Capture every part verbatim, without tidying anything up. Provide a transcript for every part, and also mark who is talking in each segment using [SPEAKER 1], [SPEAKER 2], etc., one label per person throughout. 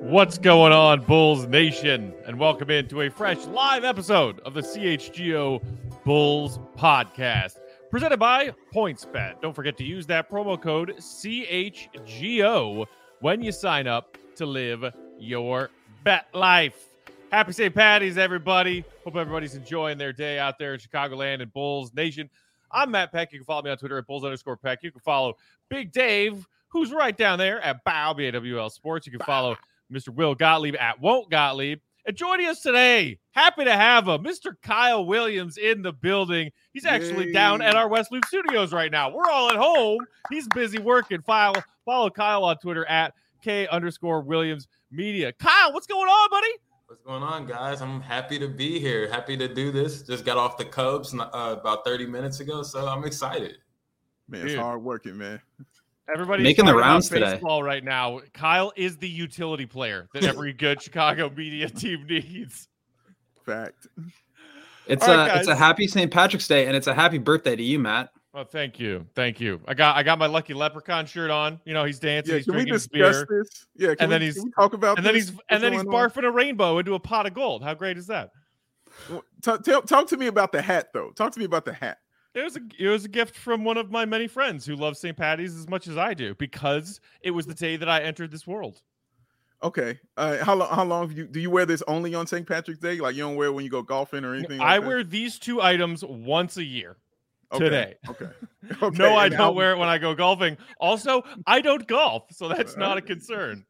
[SPEAKER 1] What's going on, Bulls Nation? And welcome into a fresh live episode of the C H G O Bulls Podcast, presented by PointsBet. Don't forget to use that promo code C H G O when you sign up to live your bet life. Happy Saint Patty's, everybody. Hope everybody's enjoying their day out there in Chicagoland and Bulls Nation. I'm Matt Peck. You can follow me on Twitter at Bulls underscore Peck. You can follow Big Dave, who's right down there at Bow, B A W L Sports. You can follow Mister Will Gottlieb at Won't Gottlieb. And joining us today, happy to have him, Mister Kyle Williams in the building. He's actually Yay. down at our West Loop studios right now. We're all at home. He's busy working. Follow, follow Kyle on Twitter at K underscore Williams Media. Kyle, what's going on, buddy?
[SPEAKER 2] What's going on, guys? I'm happy to be here. Happy to do this. Just got off the Cubs uh, about thirty minutes ago, so I'm excited.
[SPEAKER 3] Man, it's Dude. hard working, man.
[SPEAKER 1] Everybody's
[SPEAKER 4] making the rounds today.
[SPEAKER 1] Baseball right now. Kyle is the utility player that every good Chicago media team needs.
[SPEAKER 3] Fact.
[SPEAKER 4] It's
[SPEAKER 1] All
[SPEAKER 4] a
[SPEAKER 1] right,
[SPEAKER 4] it's a happy Saint Patrick's Day, and it's a happy birthday to you, Matt.
[SPEAKER 1] Oh, thank you, thank you. I got I got my Lucky Leprechaun shirt on. You know, he's dancing.
[SPEAKER 3] Yeah,
[SPEAKER 1] he's
[SPEAKER 3] can we
[SPEAKER 1] drinking
[SPEAKER 3] discuss
[SPEAKER 1] beer.
[SPEAKER 3] this? Yeah, can,
[SPEAKER 1] and
[SPEAKER 3] we,
[SPEAKER 1] then he's
[SPEAKER 3] can we talk about
[SPEAKER 1] and
[SPEAKER 3] this?
[SPEAKER 1] then he's
[SPEAKER 3] What's
[SPEAKER 1] and then he's
[SPEAKER 3] on?
[SPEAKER 1] barfing a rainbow into a pot of gold. How great is that?
[SPEAKER 3] Talk, talk, talk to me about the hat, though. Talk to me about the hat.
[SPEAKER 1] It was a it was a gift from one of my many friends who loves Saint Patty's as much as I do, because it was the day that I entered this world.
[SPEAKER 3] Okay. Uh, how long? How long have you do you wear this only on Saint Patrick's Day? Like you don't wear it when you go golfing or anything?
[SPEAKER 1] I
[SPEAKER 3] like
[SPEAKER 1] wear these two items once a year.
[SPEAKER 3] Okay.
[SPEAKER 1] Today.
[SPEAKER 3] Okay. okay.
[SPEAKER 1] No, I
[SPEAKER 3] and
[SPEAKER 1] don't
[SPEAKER 3] how...
[SPEAKER 1] wear it when I go golfing. Also, I don't golf, so that's not a concern.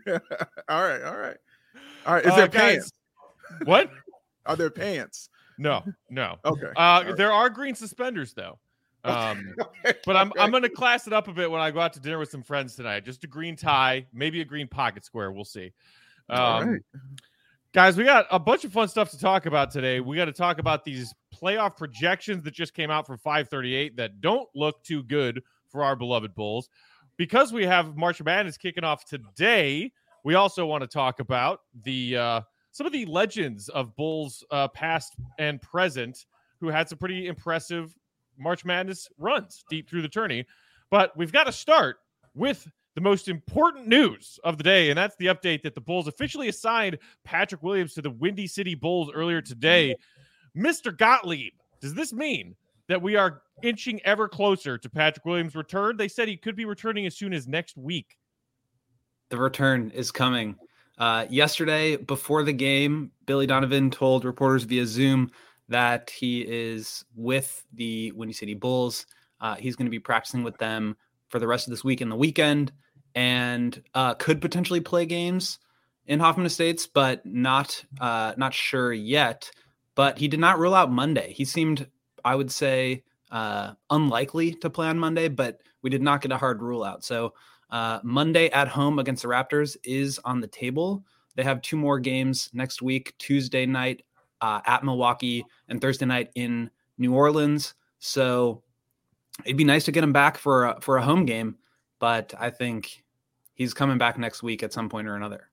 [SPEAKER 3] all right. All right. All right. Is
[SPEAKER 1] uh,
[SPEAKER 3] there
[SPEAKER 1] guys,
[SPEAKER 3] pants?
[SPEAKER 1] What?
[SPEAKER 3] Are there pants?
[SPEAKER 1] No, no.
[SPEAKER 3] Okay.
[SPEAKER 1] Uh,
[SPEAKER 3] right.
[SPEAKER 1] There are green suspenders though. Um,
[SPEAKER 3] okay.
[SPEAKER 1] but I'm
[SPEAKER 3] okay.
[SPEAKER 1] I'm gonna class it up a bit when I go out to dinner with some friends tonight. Just a green tie, maybe a green pocket square. We'll see. Um,
[SPEAKER 3] All right.
[SPEAKER 1] Guys, we got a bunch of fun stuff to talk about today. We got to talk about these playoff projections that just came out from five thirty-eight that don't look too good for our beloved Bulls. Because we have March Madness kicking off today, we also want to talk about the uh, some of the legends of Bulls uh, past and present who had some pretty impressive March Madness runs deep through the tourney. But we've got to start with the most important news of the day, and that's the update that the Bulls officially assigned Patrick Williams to the Windy City Bulls earlier today. Mister Gottlieb, does this mean that we are inching ever closer to Patrick Williams' return? They said he could be returning as soon as next week.
[SPEAKER 4] The return is coming. Uh, yesterday, before the game, Billy Donovan told reporters via Zoom that he is with the Windy City Bulls. Uh, he's going to be practicing with them for the rest of this week and the weekend, and uh, could potentially play games in Hoffman Estates, but not uh, not sure yet. But he did not rule out Monday. He seemed, I would say, uh, unlikely to play on Monday, but we did not get a hard rule out. So uh, Monday at home against the Raptors is on the table. They have two more games next week, Tuesday night uh, at Milwaukee and Thursday night in New Orleans. So it'd be nice to get him back for a, for a home game, but I think he's coming back next week at some point or another.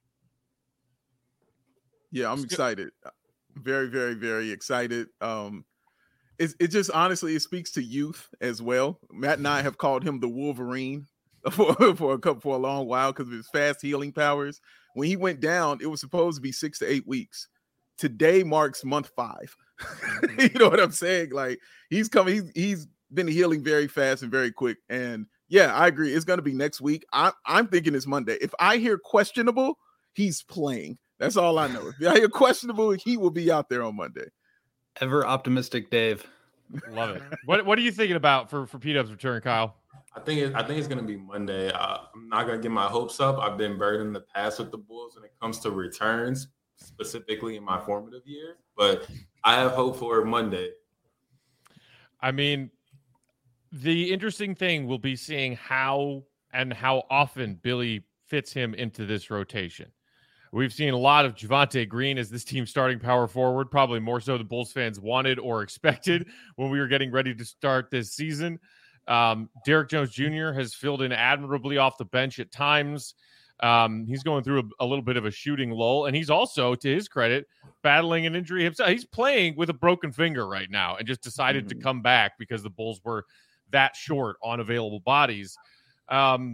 [SPEAKER 3] Yeah, I'm excited. Very, very, very excited. Um, it, it just honestly, it speaks to youth as well. Matt and I have called him the Wolverine for, for a couple for a long while because of his fast healing powers. When he went down, it was supposed to be six to eight weeks. Today marks month five. You know what I'm saying? Like he's coming, he's he's been healing very fast and very quick. And yeah, I agree. It's gonna be next week. I, I'm thinking it's Monday. If I hear questionable, he's playing. That's all I know. If I hear questionable, he will be out there on Monday.
[SPEAKER 4] Ever optimistic, Dave.
[SPEAKER 1] Love it. What What are you thinking about for for P-Dub's return, Kyle?
[SPEAKER 2] I think it, I think it's going to be Monday. Uh, I'm not going to get my hopes up. I've been burned in the past with the Bulls when it comes to returns, specifically in my formative years. But I have hope for Monday.
[SPEAKER 1] I mean, the interesting thing will be seeing how and how often Billy fits him into this rotation. We've seen a lot of Javonte Green as this team's starting power forward, probably more so than Bulls fans wanted or expected when we were getting ready to start this season. Um, Derrick Jones Junior has filled in admirably off the bench at times. Um, he's going through a, a little bit of a shooting lull, and he's also, to his credit, battling an injury himself. He's playing with a broken finger right now and just decided mm-hmm. to come back because the Bulls were that short on available bodies. Um,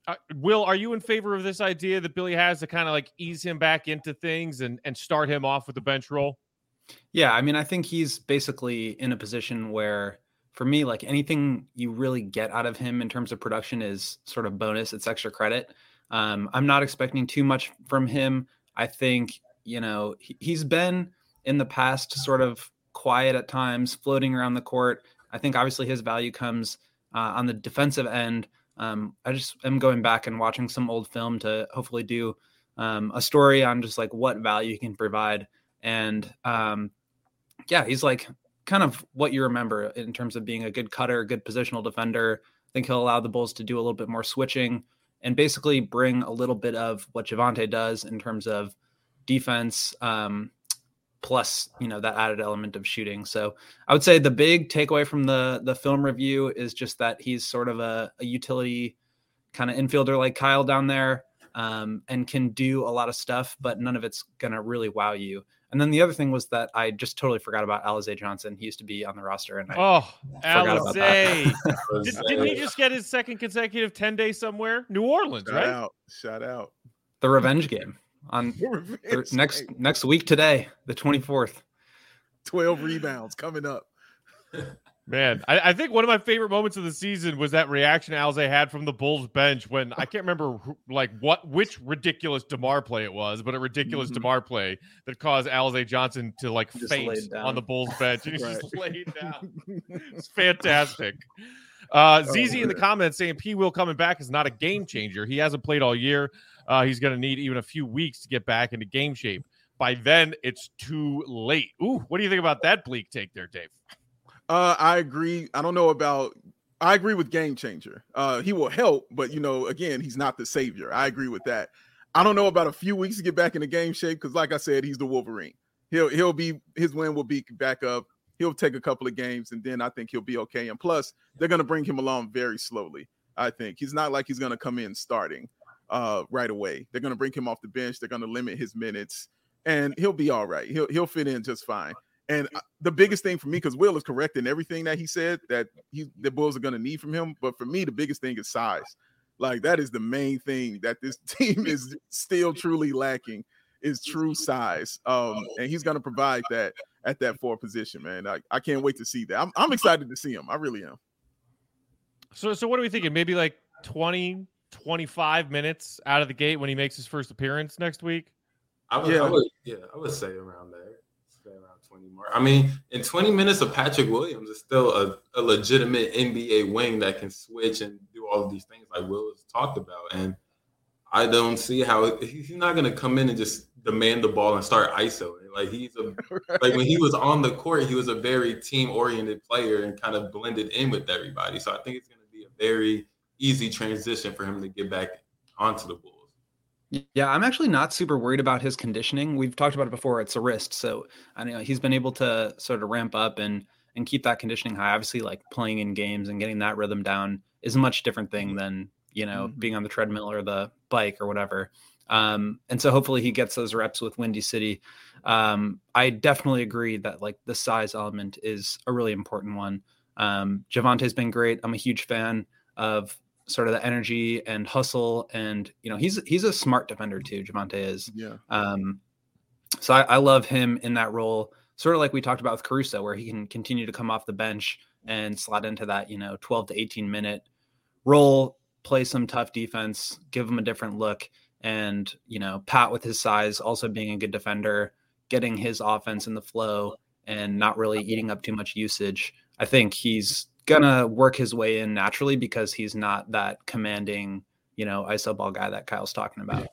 [SPEAKER 1] Uh, Will, are you in favor of this idea that Billy has to kind of like ease him back into things and, and start him off with the bench role?
[SPEAKER 4] Yeah, I mean, I think he's basically in a position where, for me, like anything you really get out of him in terms of production is sort of bonus. It's extra credit. Um, I'm not expecting too much from him. I think, you know, he, he's been in the past sort of quiet at times, floating around the court. I think obviously his value comes uh, on the defensive end. Um, I just am going back and watching some old film to hopefully do um, a story on just like what value he can provide. And um, yeah, he's like kind of what you remember in terms of being a good cutter, good positional defender. I think he'll allow the Bulls to do a little bit more switching and basically bring a little bit of what Javonte does in terms of defense, um, plus, you know, that added element of shooting. So I would say the big takeaway from the the film review is just that he's sort of a, a utility kind of infielder like Kyle down there, um, and can do a lot of stuff, but none of it's going to really wow you. And then the other thing was that I just totally forgot about Alize Johnson. He used to be on the roster. And I
[SPEAKER 1] oh,
[SPEAKER 4] forgot about that.
[SPEAKER 1] Did, didn't he just get his second consecutive ten days somewhere? New Orleans,
[SPEAKER 3] Shout
[SPEAKER 1] right?
[SPEAKER 3] out. Shout out.
[SPEAKER 4] The revenge game on th- next next week today, the twenty-fourth.
[SPEAKER 3] twelve rebounds coming up.
[SPEAKER 1] Man, I, I think one of my favorite moments of the season was that reaction Alize had from the Bulls bench when I can't remember who, like what which ridiculous DeMar play it was, but a ridiculous mm-hmm. DeMar play that caused Alize Johnson to like just faint on the Bulls bench, and he right. just laid down. It's fantastic. Uh, Z Z oh, in the comments saying P. Will coming back is not a game changer. He hasn't played all year. Uh, he's going to need even a few weeks to get back into game shape. By then, it's too late. Ooh, what do you think about that bleak take there, Dave?
[SPEAKER 3] Uh, I agree. I don't know about. I agree with game changer. Uh, he will help, but you know, again, he's not the savior. I agree with that. I don't know about a few weeks to get back into game shape because, like I said, he's the Wolverine. He'll he'll be his win will be back up. He'll take a couple of games, and then I think he'll be okay. And plus, they're going to bring him along very slowly. I think he's not like he's going to come in starting uh, right away. They're going to bring him off the bench. They're going to limit his minutes, and he'll be all right. He'll he'll fit in just fine. And the biggest thing for me, because Will is correct in everything that he said that he the Bulls are going to need from him. But for me, the biggest thing is size. Like that is the main thing that this team is still truly lacking is true size. Um, and he's going to provide that at that four position, man. I, I can't wait to see that. I'm, I'm excited to see him. I really am.
[SPEAKER 1] So, so what are we thinking? Maybe like twenty, twenty-five minutes out of the gate when he makes his first appearance next week?
[SPEAKER 2] I would, yeah. I would, yeah, I would say around there. Around twenty more. I mean, in twenty minutes of Patrick Williams is still a, a legitimate N B A wing that can switch and do all of these things like Will has talked about. And I don't see how he's not going to come in and just demand the ball and start I S O. Like he's a right. like when he was on the court, he was a very team oriented player and kind of blended in with everybody. So I think it's going to be a very easy transition for him to get back onto the Bulls.
[SPEAKER 4] Yeah, I'm actually not super worried about his conditioning. We've talked about it before. It's a wrist. So I know he's been able to sort of ramp up and and keep that conditioning high. Obviously, like playing in games and getting that rhythm down is a much different thing than, you know, mm-hmm. being on the treadmill or the bike or whatever. Um, and so hopefully he gets those reps with Windy City. Um, I definitely agree that like the size element is a really important one. Um, Javonte's been great. I'm a huge fan of sort of the energy and hustle. And, you know, he's, he's a smart defender too. Javonte is.
[SPEAKER 3] Yeah.
[SPEAKER 4] Um, so I, I love him in that role, sort of like we talked about with Caruso, where he can continue to come off the bench and slot into that, you know, twelve to eighteen minute role, play some tough defense, give him a different look. And, you know, Pat with his size, also being a good defender, getting his offense in the flow and not really eating up too much usage. I think he's gonna work his way in naturally because he's not that commanding, you know, I S O ball guy that Kyle's talking about.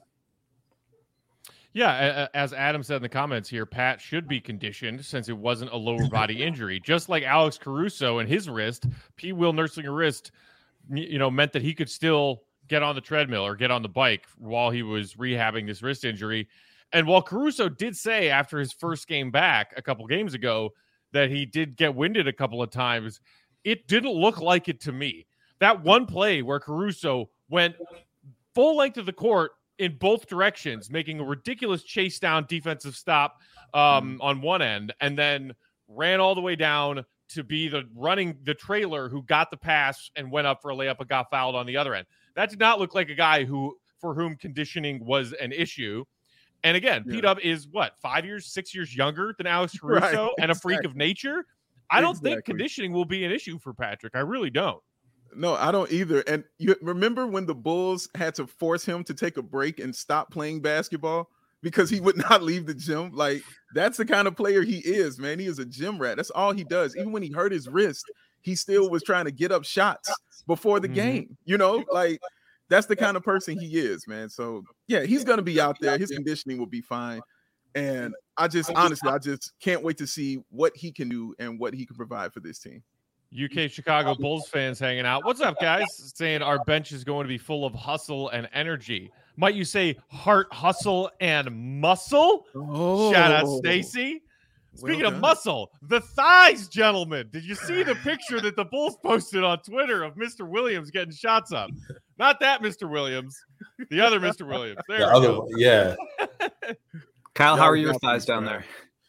[SPEAKER 1] Yeah, as Adam said in the comments here, Pat should be conditioned since it wasn't a lower body injury. Just like Alex Caruso and his wrist, P. Will nursing a wrist, you know, meant that he could still get on the treadmill or get on the bike while he was rehabbing this wrist injury. And while Caruso did say after his first game back a couple games ago that he did get winded a couple of times, it didn't look like it to me. That one play where Caruso went full length of the court in both directions, making a ridiculous chase down defensive stop um, on one end, and then ran all the way down to be the running the trailer who got the pass and went up for a layup and got fouled on the other end. That did not look like a guy who for whom conditioning was an issue. And again, yeah. P-Dub is what, five years, six years younger than Alex Caruso right, exactly. and a freak of nature. I don't exactly. think conditioning will be an issue for Patrick. I really don't.
[SPEAKER 3] No, I don't either. And you remember when the Bulls had to force him to take a break and stop playing basketball because he would not leave the gym? Like, that's the kind of player he is, man. He is a gym rat. That's all he does. Even when he hurt his wrist, he still was trying to get up shots before the mm-hmm. game. You know, like, that's the kind of person he is, man. So, yeah, he's going to be out there. His conditioning will be fine. And I just, honestly, I just can't wait to see what he can do and what he can provide for this team.
[SPEAKER 1] U K Chicago Bulls fans hanging out. What's up, guys? Saying our bench is going to be full of hustle and energy. Might you say heart, hustle, and muscle? Oh, shout out, Stacy. Speaking well of muscle, the thighs, gentlemen. Did you see the picture that the Bulls posted on Twitter of Mister Williams getting shots up? Not that Mister Williams, the other Mister Williams. There the we
[SPEAKER 2] other,
[SPEAKER 1] go.
[SPEAKER 2] Yeah.
[SPEAKER 4] Kyle, how are your thighs down there?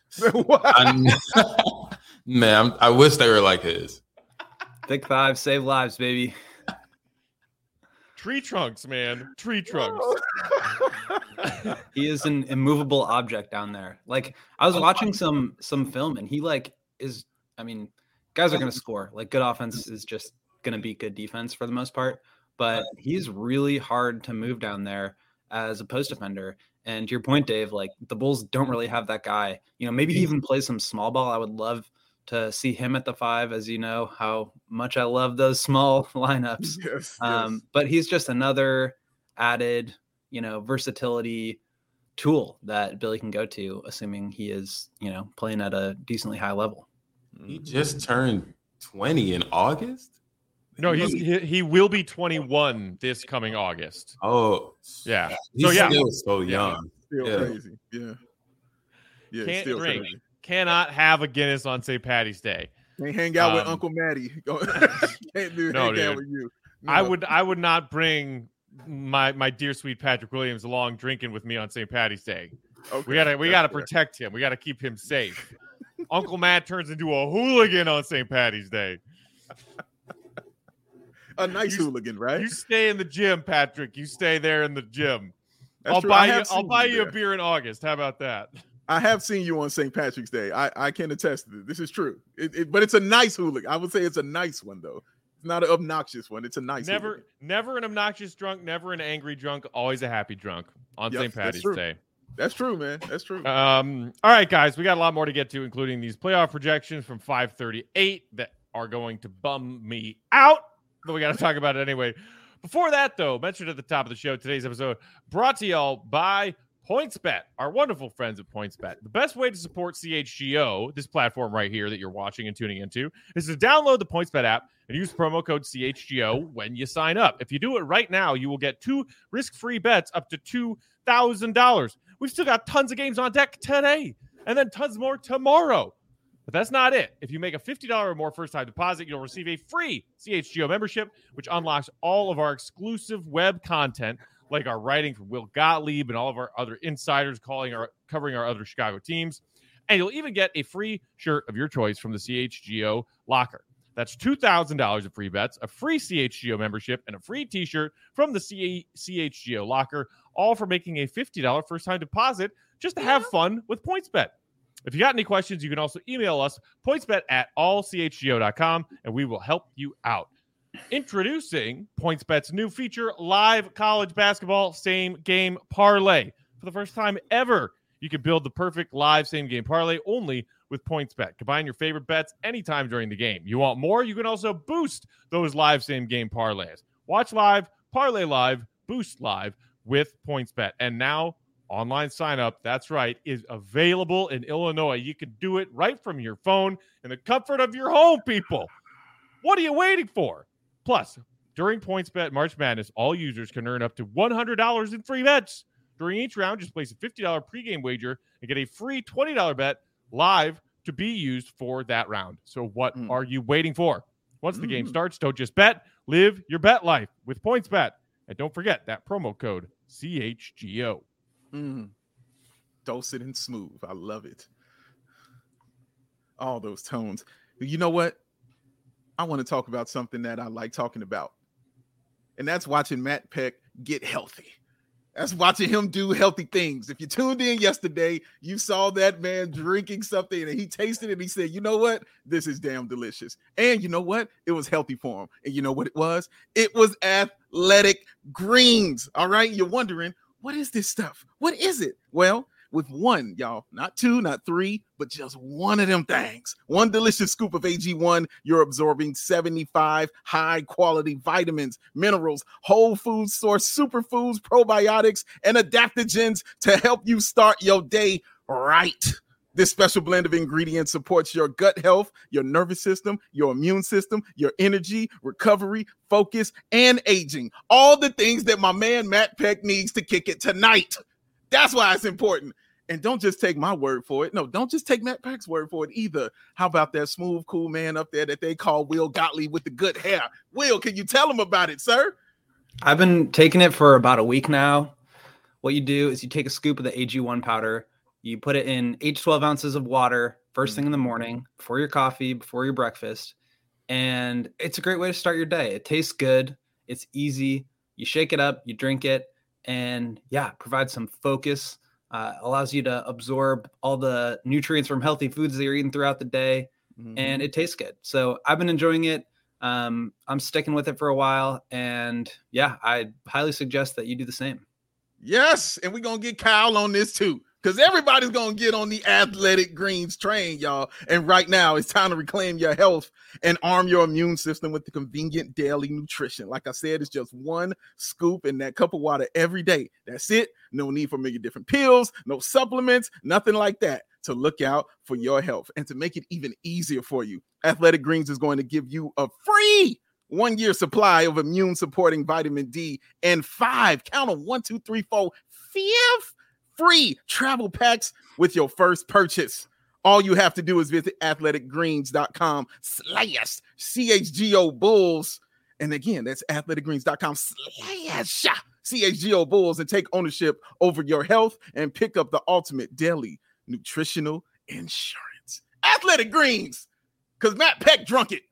[SPEAKER 2] Man, I'm, I wish they were like his.
[SPEAKER 4] Thick thighs save lives, baby.
[SPEAKER 1] Tree trunks, man. Tree trunks.
[SPEAKER 4] He is an immovable object down there. Like, I was watching some some film, and he like is. I mean, guys are going to score. Like, good offense is just going to beat good defense for the most part. But he's really hard to move down there as a post defender. And to your point, Dave, like the Bulls don't really have that guy. You know, maybe he even plays some small ball. I would love to see him at the five, as you know how much I love those small lineups. Yes, um, yes. But he's just another added, you know, versatility tool that Billy can go to, assuming he is, you know, playing at a decently high level.
[SPEAKER 2] He just turned twenty in August?
[SPEAKER 1] No, he's he, he will be twenty-one this coming August.
[SPEAKER 2] Oh,
[SPEAKER 1] yeah.
[SPEAKER 2] He's
[SPEAKER 1] so yeah,
[SPEAKER 2] still so young.
[SPEAKER 3] Still
[SPEAKER 2] yeah.
[SPEAKER 3] crazy. Yeah. Yeah.
[SPEAKER 1] Can't
[SPEAKER 3] still
[SPEAKER 1] drink.
[SPEAKER 3] Crazy.
[SPEAKER 1] Cannot have a Guinness on Saint Patty's Day.
[SPEAKER 3] Can't hang out
[SPEAKER 1] um,
[SPEAKER 3] with Uncle Matty. Can't do
[SPEAKER 1] no,
[SPEAKER 3] hang
[SPEAKER 1] dude.
[SPEAKER 3] out with you. No.
[SPEAKER 1] I would I would not bring my my dear sweet Patrick Williams along drinking with me on Saint Patty's Day. Okay. We gotta we gotta protect him. We gotta keep him safe. Uncle Matt turns into a hooligan on Saint Patty's Day.
[SPEAKER 3] A nice
[SPEAKER 1] you,
[SPEAKER 3] hooligan, right?
[SPEAKER 1] You stay in the gym, Patrick. You stay there in the gym.
[SPEAKER 3] That's
[SPEAKER 1] I'll
[SPEAKER 3] true.
[SPEAKER 1] buy you. I'll buy you, you a beer in August. How about that?
[SPEAKER 3] I have seen you on Saint Patrick's Day. I, I can attest to this. This is true. It, it, but it's a nice hooligan. I would say it's a nice one, though. It's not an obnoxious one. It's a nice
[SPEAKER 1] Never,
[SPEAKER 3] hooligan.
[SPEAKER 1] Never an obnoxious drunk. Never an angry drunk. Always a happy drunk on yep, Saint Patty's
[SPEAKER 3] that's
[SPEAKER 1] Day.
[SPEAKER 3] That's true, man. That's true.
[SPEAKER 1] Um. All right, guys. We got a lot more to get to, including these playoff projections from five thirty-eight that are going to bum me out. But we got to talk about it anyway. Before that, though, mentioned at the top of the show, today's episode brought to y'all by PointsBet, our wonderful friends at PointsBet. The best way to support C H G O, this platform right here that you're watching and tuning into, is to download the PointsBet app and use promo code C H G O when you sign up. If you do it right now, you will get two risk-free bets up to two thousand dollars. We've still got tons of games on deck today and then tons more tomorrow. But that's not it. If you make a fifty dollars or more first-time deposit, you'll receive a free C H G O membership, which unlocks all of our exclusive web content, like our writing from Will Gottlieb and all of our other insiders calling our covering our other Chicago teams. And you'll even get a free shirt of your choice from the C H G O locker. That's two thousand dollars of free bets, a free C H G O membership, and a free t-shirt from the C H G O locker, all for making a fifty dollars first-time deposit just to have fun with PointsBet. If you got any questions, you can also email us, pointsbet at all c h g o dot com, and we will help you out. Introducing PointsBet's new feature, Live College Basketball Same Game Parlay. For the first time ever, you can build the perfect live same game parlay only with PointsBet. Combine your favorite bets anytime during the game. You want more? You can also boost those live same game parlays. Watch live, parlay live, boost live with PointsBet. And now, online sign up, that's right, is available in Illinois. You can do it right from your phone in the comfort of your home, people. What are you waiting for? Plus, during PointsBet March Madness, all users can earn up to one hundred dollars in free bets. During each round, just place a fifty dollars pregame wager and get a free twenty dollars bet live to be used for that round. So what mm. are you waiting for? Once the mm. game starts, don't just bet. Live your bet life with PointsBet. And don't forget that promo code C H G O.
[SPEAKER 3] Mm. Dulcet and smooth. I love it. All those tones. You know what? I want to talk about something that I like talking about. And that's watching Matt Peck get healthy. That's watching him do healthy things. If you tuned in yesterday, you saw that man drinking something and he tasted it and he said, you know what? This is damn delicious. And you know what? It was healthy for him. And you know what it was? It was Athletic Greens. All right. You're wondering, what is this stuff? What is it? Well, with one, y'all, not two, not three, but just one of them things. One delicious scoop of A G one, you're absorbing seventy-five high-quality vitamins, minerals, whole food source, superfoods, probiotics, and adaptogens to help you start your day right. This special blend of ingredients supports your gut health, your nervous system, your immune system, your energy, recovery, focus, and aging. All the things that my man Matt Peck needs to kick it tonight. That's why it's important. And don't just take my word for it. No, don't just take Matt Peck's word for it either. How about that smooth, cool man up there that they call Will Gottlieb with the good hair? Will, can you tell him about it, sir?
[SPEAKER 4] I've been taking it for about a week now. What you do is you take a scoop of the A G one powder, you put it in eight to twelve ounces of water first thing in the morning, before your coffee, before your breakfast. And it's a great way to start your day. It tastes good. It's easy. You shake it up, you drink it, and yeah, provides some focus. Uh, allows you to absorb all the nutrients from healthy foods that you're eating throughout the day, mm-hmm. and it tastes good. So I've been enjoying it. Um, I'm sticking with it for a while, and yeah, I highly suggest that you do the same.
[SPEAKER 3] Yes, and we're going to get Kyle on this too, because everybody's going to get on the Athletic Greens train, y'all. And right now, it's time to reclaim your health and arm your immune system with the convenient daily nutrition. Like I said, it's just one scoop in that cup of water every day. That's it. No need for many different pills, no supplements, nothing like that. To look out for your health and to make it even easier for you, Athletic Greens is going to give you a free one-year supply of immune-supporting vitamin D and five, count on one, two, three, four, fifth free travel packs with your first purchase. All you have to do is visit athletic greens dot com slash C H G O Bulls. And again, that's athletic greens dot com slash C H G O Bulls and take ownership over your health and pick up the ultimate daily nutritional insurance. Athletic Greens, because Matt Peck drunk it.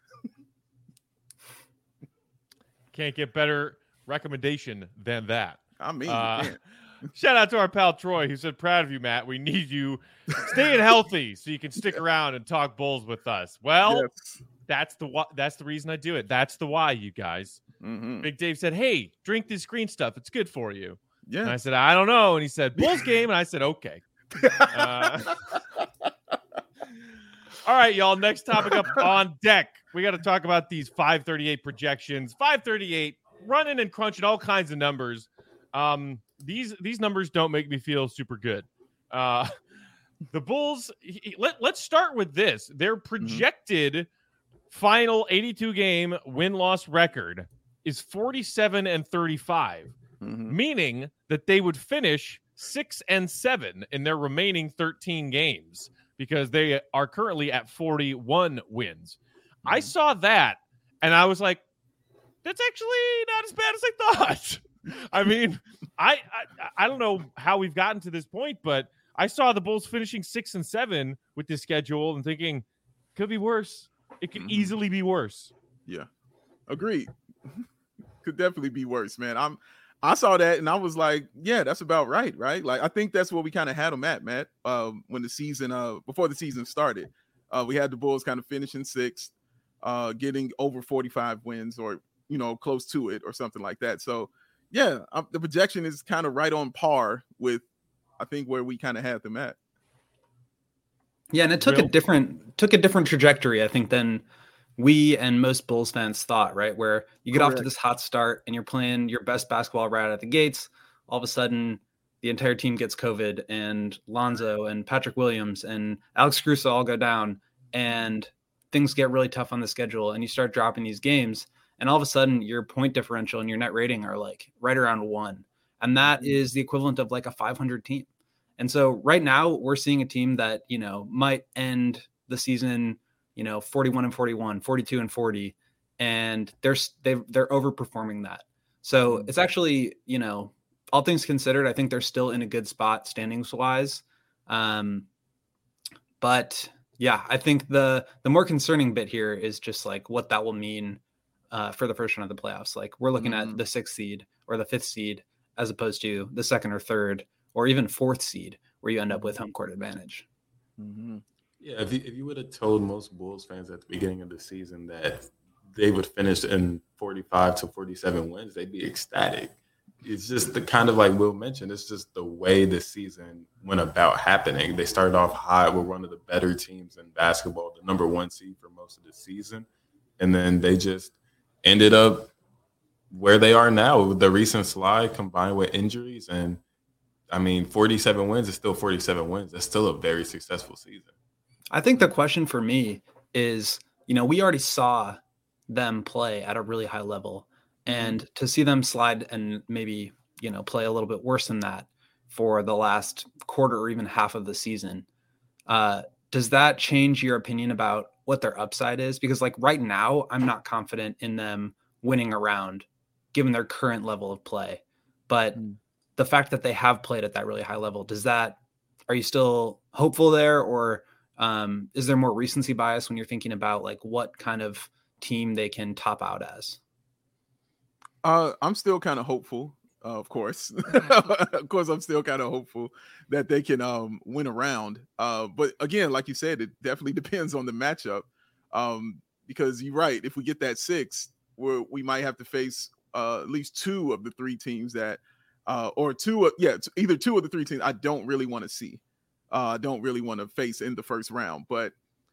[SPEAKER 1] Can't get better recommendation than that.
[SPEAKER 3] I mean,
[SPEAKER 1] uh, shout out to our pal Troy, who said, proud of you, Matt. We need you staying healthy so you can stick around and talk Bulls with us. Well, yes. that's the wh- that's the reason I do it. That's the why, you guys. Mm-hmm. Big Dave said, hey, drink this green stuff. It's good for you. Yeah. And I said, I don't know. And he said, Bulls game. And I said, okay. Uh, all right, y'all. Next topic up on deck. We got to talk about these five thirty-eight projections. five thirty-eight, running and crunching all kinds of numbers. Um, these these numbers don't make me feel super good. Uh, the Bulls, he, let, let's start with this. Their projected mm-hmm. final eighty-two game win-loss record is forty-seven and thirty-five, mm-hmm. meaning that they would finish six and seven in their remaining thirteen games because they are currently at forty-one wins. Mm-hmm. I saw that and I was like, that's actually not as bad as I thought. I mean, I, I I don't know how we've gotten to this point, but I saw the Bulls finishing six and seven with this schedule and thinking, could be worse. It could mm-hmm. easily be worse.
[SPEAKER 3] Yeah, agreed. Could definitely be worse, man. I'm. I saw that and I was like, yeah, that's about right, right? Like I think that's what we kind of had them at, Matt. Um, when the season, uh, before the season started, uh, we had the Bulls kind of finishing sixth, uh, getting over forty-five wins or you know close to it or something like that. So. Yeah, um, the projection is kind of right on par with, I think, where we kind of had them at.
[SPEAKER 4] Yeah, and it took Real? a different took a different trajectory, I think, than we and most Bulls fans thought. Right, where you get Correct. off to this hot start and you're playing your best basketball right out of the gates. All of a sudden, the entire team gets COVID, and Lonzo and Patrick Williams and Alex Caruso all go down, and things get really tough on the schedule, and you start dropping these games. And all of a sudden, your point differential and your net rating are like right around one. And that is the equivalent of like a five hundred team. And so right now we're seeing a team that, you know, might end the season, you know, forty-one and forty-one, forty-two and forty. And they're, they're, they're overperforming that. So it's actually, you know, all things considered, I think they're still in a good spot standings wise. Um, but Yeah, I think the the more concerning bit here is just like what that will mean uh, for the first round of the playoffs. Like we're looking
[SPEAKER 3] Mhm.
[SPEAKER 4] at the sixth seed or the fifth seed as opposed to the second or third or even fourth seed where you end up with home court advantage.
[SPEAKER 3] Mhm.
[SPEAKER 2] Yeah, if you, if you would have told most Bulls fans at the beginning of the season that they would finish in forty-five to forty-seven wins, they'd be ecstatic. It's just the kind of like Will mentioned, it's just the way the season went about happening. They started off high with one of the better teams in basketball, the number one seed for most of the season. And then they just ended up where they are now with the recent slide combined with injuries. And I mean, forty-seven wins is still forty-seven wins. That's still a very successful season.
[SPEAKER 4] I think the question for me is, you know, we already saw them play at a really high level, and to see them slide and maybe, you know, play a little bit worse than that for the last quarter or even half of the season. Uh, does that change your opinion about what their upside is? Because like right now, I'm not confident in them winning a round given their current level of play. But
[SPEAKER 3] Mm.
[SPEAKER 4] the fact that they have played at that really high level, does that, are you still hopeful there? Or um, is there more recency bias when you're thinking about like what kind of team they can top out as?
[SPEAKER 3] Uh, I'm still kind of hopeful, uh, of course. Of course, I'm still kind of hopeful that they can um, win a round. Uh, but again, like you said, it definitely depends on the matchup. Um, because you're right, if we get that six, where we might have to face uh, at least two of the three teams that, uh, or two, of, yeah, t- either two of the three teams I don't really want to see. I uh, don't really want to face in the first round. But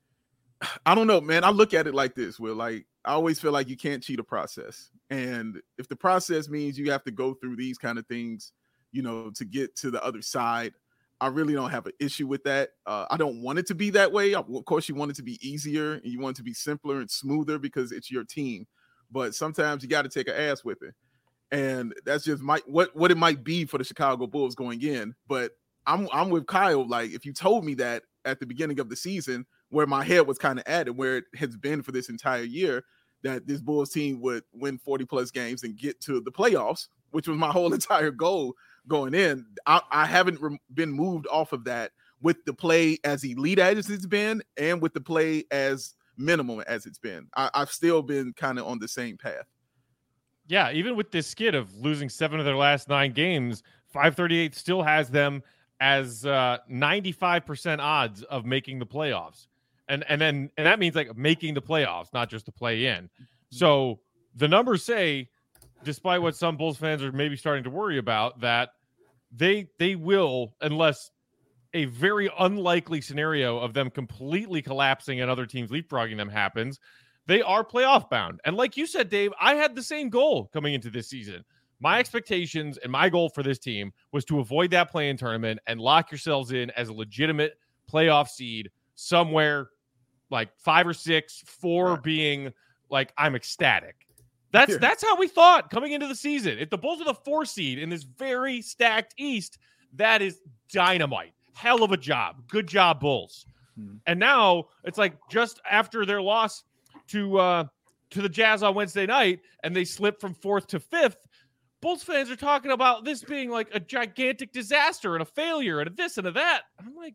[SPEAKER 3] I don't know, man. I look at it like this, Will. Like, I always feel like you can't cheat a process. And if the process means you have to go through these kind of things, you know, to get to the other side, I really don't have an issue with that. Uh, I don't want it to be that way. Of course, you want it to be easier and you want it to be simpler and smoother because it's your team. But sometimes you got to take an ass whipping. And that's just my what what it might be for the Chicago Bulls going in. But I'm I'm with Kyle. Like, if you told me that at the beginning of the season, where my head was kind of at and where it has been for this entire year, that this Bulls team would win forty plus games and get to the playoffs, which was my whole entire goal going in. I, I haven't re- been moved off of that with the play as elite as it's been and with the play as minimum as it's been. I, I've still been kind of on the same path.
[SPEAKER 1] Yeah, even with this skid of losing seven of their last nine games, five thirty-eight still has them as uh, ninety-five percent odds of making the playoffs. And and then and that means like making the playoffs, not just to play in. So the numbers say, despite what some Bulls fans are maybe starting to worry about, that they they will, unless a very unlikely scenario of them completely collapsing and other teams leapfrogging them happens, they are playoff bound. And like you said, Dave, I had the same goal coming into this season. My expectations and my goal for this team was to avoid that play-in tournament and lock yourselves in as a legitimate playoff seed somewhere like five or six, four
[SPEAKER 3] Right.
[SPEAKER 1] being like, I'm ecstatic. That's
[SPEAKER 3] Yeah.
[SPEAKER 1] that's how we thought coming into the season. If the Bulls are the four seed in this very stacked East, that is dynamite. Hell of a job. Good job, Bulls.
[SPEAKER 3] Hmm.
[SPEAKER 1] And now it's like just after their loss to uh, to the Jazz on Wednesday night, and they slipped from fourth to fifth, Bulls fans are talking about this being like a gigantic disaster and a failure and a this and a that. I'm like,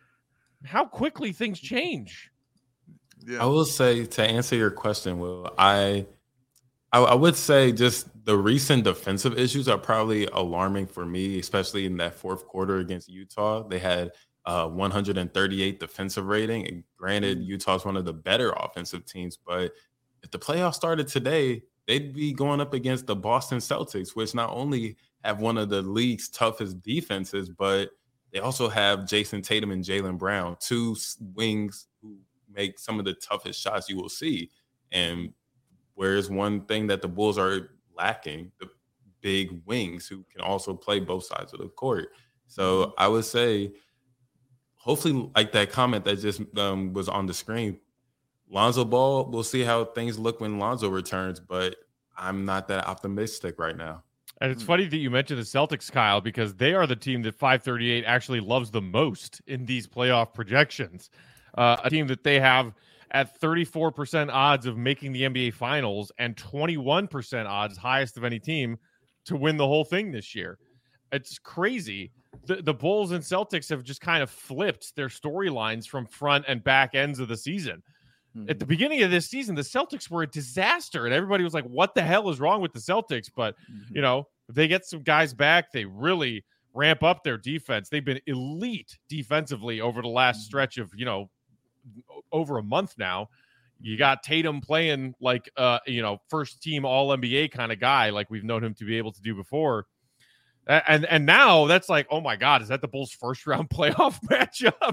[SPEAKER 1] how quickly things change.
[SPEAKER 3] Yeah.
[SPEAKER 2] I will say, to answer your question, Will, I, I I would say just the recent defensive issues are probably alarming for me, especially in that fourth quarter against Utah. They had uh, one hundred thirty-eight defensive rating. And granted, Utah's one of the better offensive teams, but if the playoffs started today, they'd be going up against the Boston Celtics, which not only have one of the league's toughest defenses, but they also have Jason Tatum and Jaylen Brown, two wings who make some of the toughest shots you will see. And whereas one thing that the Bulls are lacking, the big wings who can also play both sides of the court. So I would say, hopefully, like that comment that just um, was on the screen, Lonzo Ball, we'll see how things look when Lonzo returns, but I'm not that optimistic right now.
[SPEAKER 1] And it's funny that you mentioned the Celtics, Kyle, because they are the team that five thirty-eight actually loves the most in these playoff projections. Uh, a team that they have at thirty-four percent odds of making the N B A Finals and twenty-one percent odds, highest of any team, to win the whole thing this year. It's crazy. The, the Bulls and Celtics have just kind of flipped their storylines from front and back ends of the season. Mm-hmm. At the beginning of this season, the Celtics were a disaster, and everybody was like, what the hell is wrong with the Celtics? But, mm-hmm. you know, if they get some guys back, they really ramp up their defense. They've been elite defensively over the last mm-hmm. stretch of, you know, over a month now. You got Tatum playing like, uh, you know, first team all N B A kind of guy, like we've known him to be able to do before. And and now that's like, oh my God, is that the Bulls' first round playoff matchup?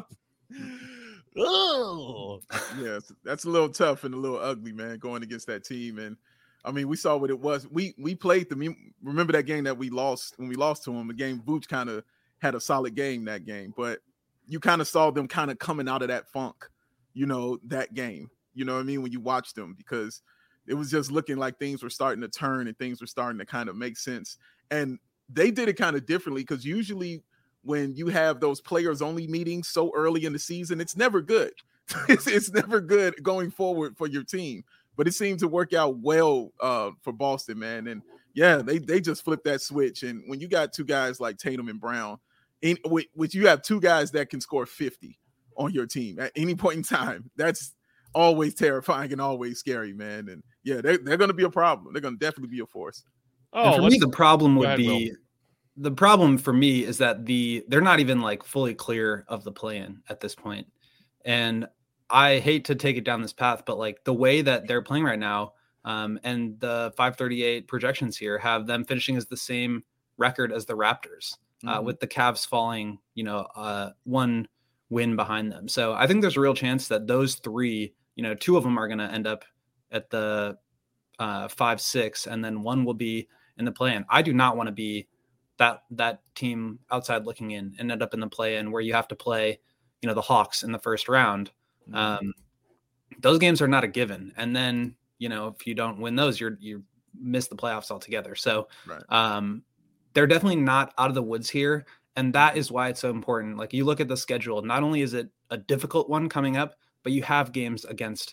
[SPEAKER 3] Oh, yeah, that's a little tough and a little ugly, man, going against that team. And I mean, we saw what it was. We we played them. Remember that game that we lost when we lost to them? The game Vooch kind of had a solid game that game, but you kind of saw them kind of coming out of that funk, you know, that game. You know what I mean? When you watch them, because it was just looking like things were starting to turn and things were starting to kind of make sense. And they did it kind of differently, because usually when you have those players only meetings so early in the season, it's never good. it's, it's never good going forward for your team. But it seemed to work out well uh, for Boston, man. And yeah, they they just flipped that switch. And when you got two guys like Tatum and Brown, in which, which you have two guys that can score fifty on your team at any point in time, that's always terrifying and always scary, man. And yeah, they're, they're going to be a problem. They're going to definitely be a force.
[SPEAKER 4] Oh, and for me, the problem would ahead, be Will. the problem for me is that the they're not even like fully clear of the play-in at this point. And I hate to take it down this path, but like the way that they're playing right now, um, and the five thirty-eight projections here have them finishing as the same record as the Raptors, mm-hmm. uh, with the Cavs falling, you know, uh, one win behind them. So I think there's a real chance that those three, you know, two of them are going to end up at the uh, five, six, and then one will be in the play-in. I do not want to be that that team outside looking in and end up in the play-in where you have to play, you know, the Hawks in the first round. Mm-hmm. Um, those games are not a given. And then, you know, if you don't win those, you're you miss the playoffs altogether. So right. um, they're definitely not out of the woods here. And that is why it's so important. Like, you look at the schedule, not only is it a difficult one coming up, but you have games against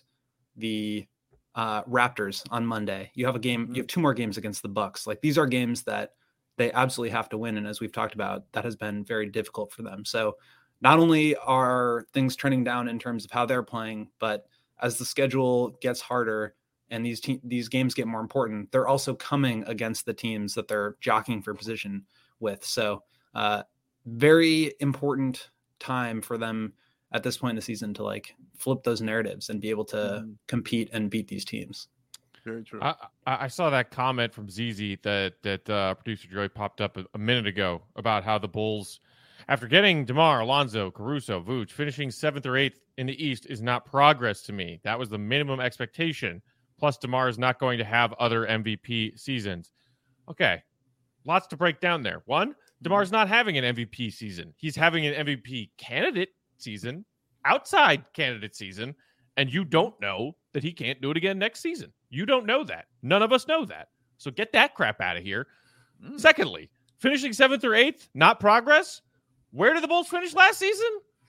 [SPEAKER 4] the uh, Raptors on Monday. You have a game, you have two more games against the Bucks. Like, these are games that they absolutely have to win. And as we've talked about, that has been very difficult for them. So not only are things trending down in terms of how they're playing, but as the schedule gets harder and these te- these games get more important, they're also coming against the teams that they're jockeying for position with. So uh, very important time for them at this point in the season to like flip those narratives and be able to mm-hmm. compete and beat these teams.
[SPEAKER 3] Very true.
[SPEAKER 1] I, I saw that comment from Z Z that that uh, producer Joey popped up a, a minute ago about how the Bulls, after getting DeMar, Alonzo, Caruso, Vooch, finishing seventh or eighth in the East is not progress to me. That was the minimum expectation. Plus, DeMar is not going to have other M V P seasons. Okay, lots to break down there. One, DeMar's not having an M V P season. He's having an M V P candidate season, outside candidate season, and you don't know that he can't do it again next season. You don't know that. None of us know that. So get that crap out of here. Mm. Secondly, finishing seventh or eighth, not progress. Where did the Bulls finish last season?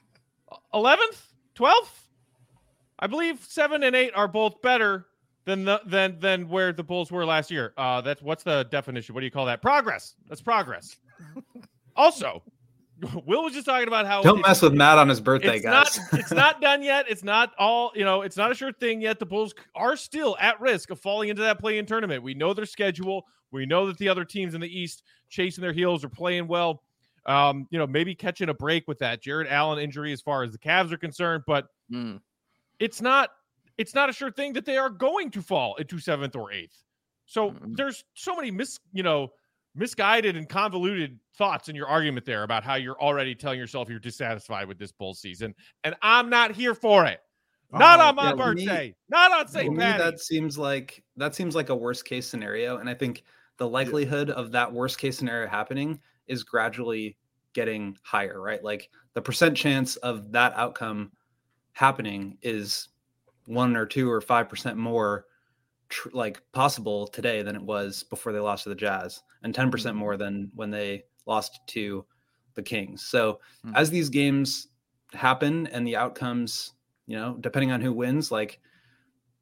[SPEAKER 1] eleventh? twelfth? I believe seven and eight are both better than the, than than where the Bulls were last year. Uh, that's what's the definition? What do you call that? Progress. That's progress. Also, Will was just talking about how
[SPEAKER 4] don't mess with Matt on his birthday,
[SPEAKER 1] it's
[SPEAKER 4] guys.
[SPEAKER 1] Not, it's not done yet. It's not all, you know, it's not a sure thing yet. The Bulls are still at risk of falling into that play-in tournament. We know their schedule. We know that the other teams in the East chasing their heels are playing well. Um, you know, maybe catching a break with that Jared Allen injury as far as the Cavs are concerned, but mm. it's not it's not a sure thing that they are going to fall into seventh or eighth. So mm. there's so many mis, you know, misguided and convoluted thoughts in your argument there about how you're already telling yourself you're dissatisfied with this Bulls season, and I'm not here for it. Not oh, on my yeah, birthday. Me, not on Saint Patty's.
[SPEAKER 4] That seems like that seems like a worst case scenario, and I think the likelihood yeah. of that worst case scenario happening is gradually getting higher, right? Like the percent chance of that outcome happening is one or two or five percent more tr- like possible today than it was before they lost to the Jazz, and ten percent more than when they lost to the Kings. So mm-hmm. as these games happen and the outcomes, you know, depending on who wins, like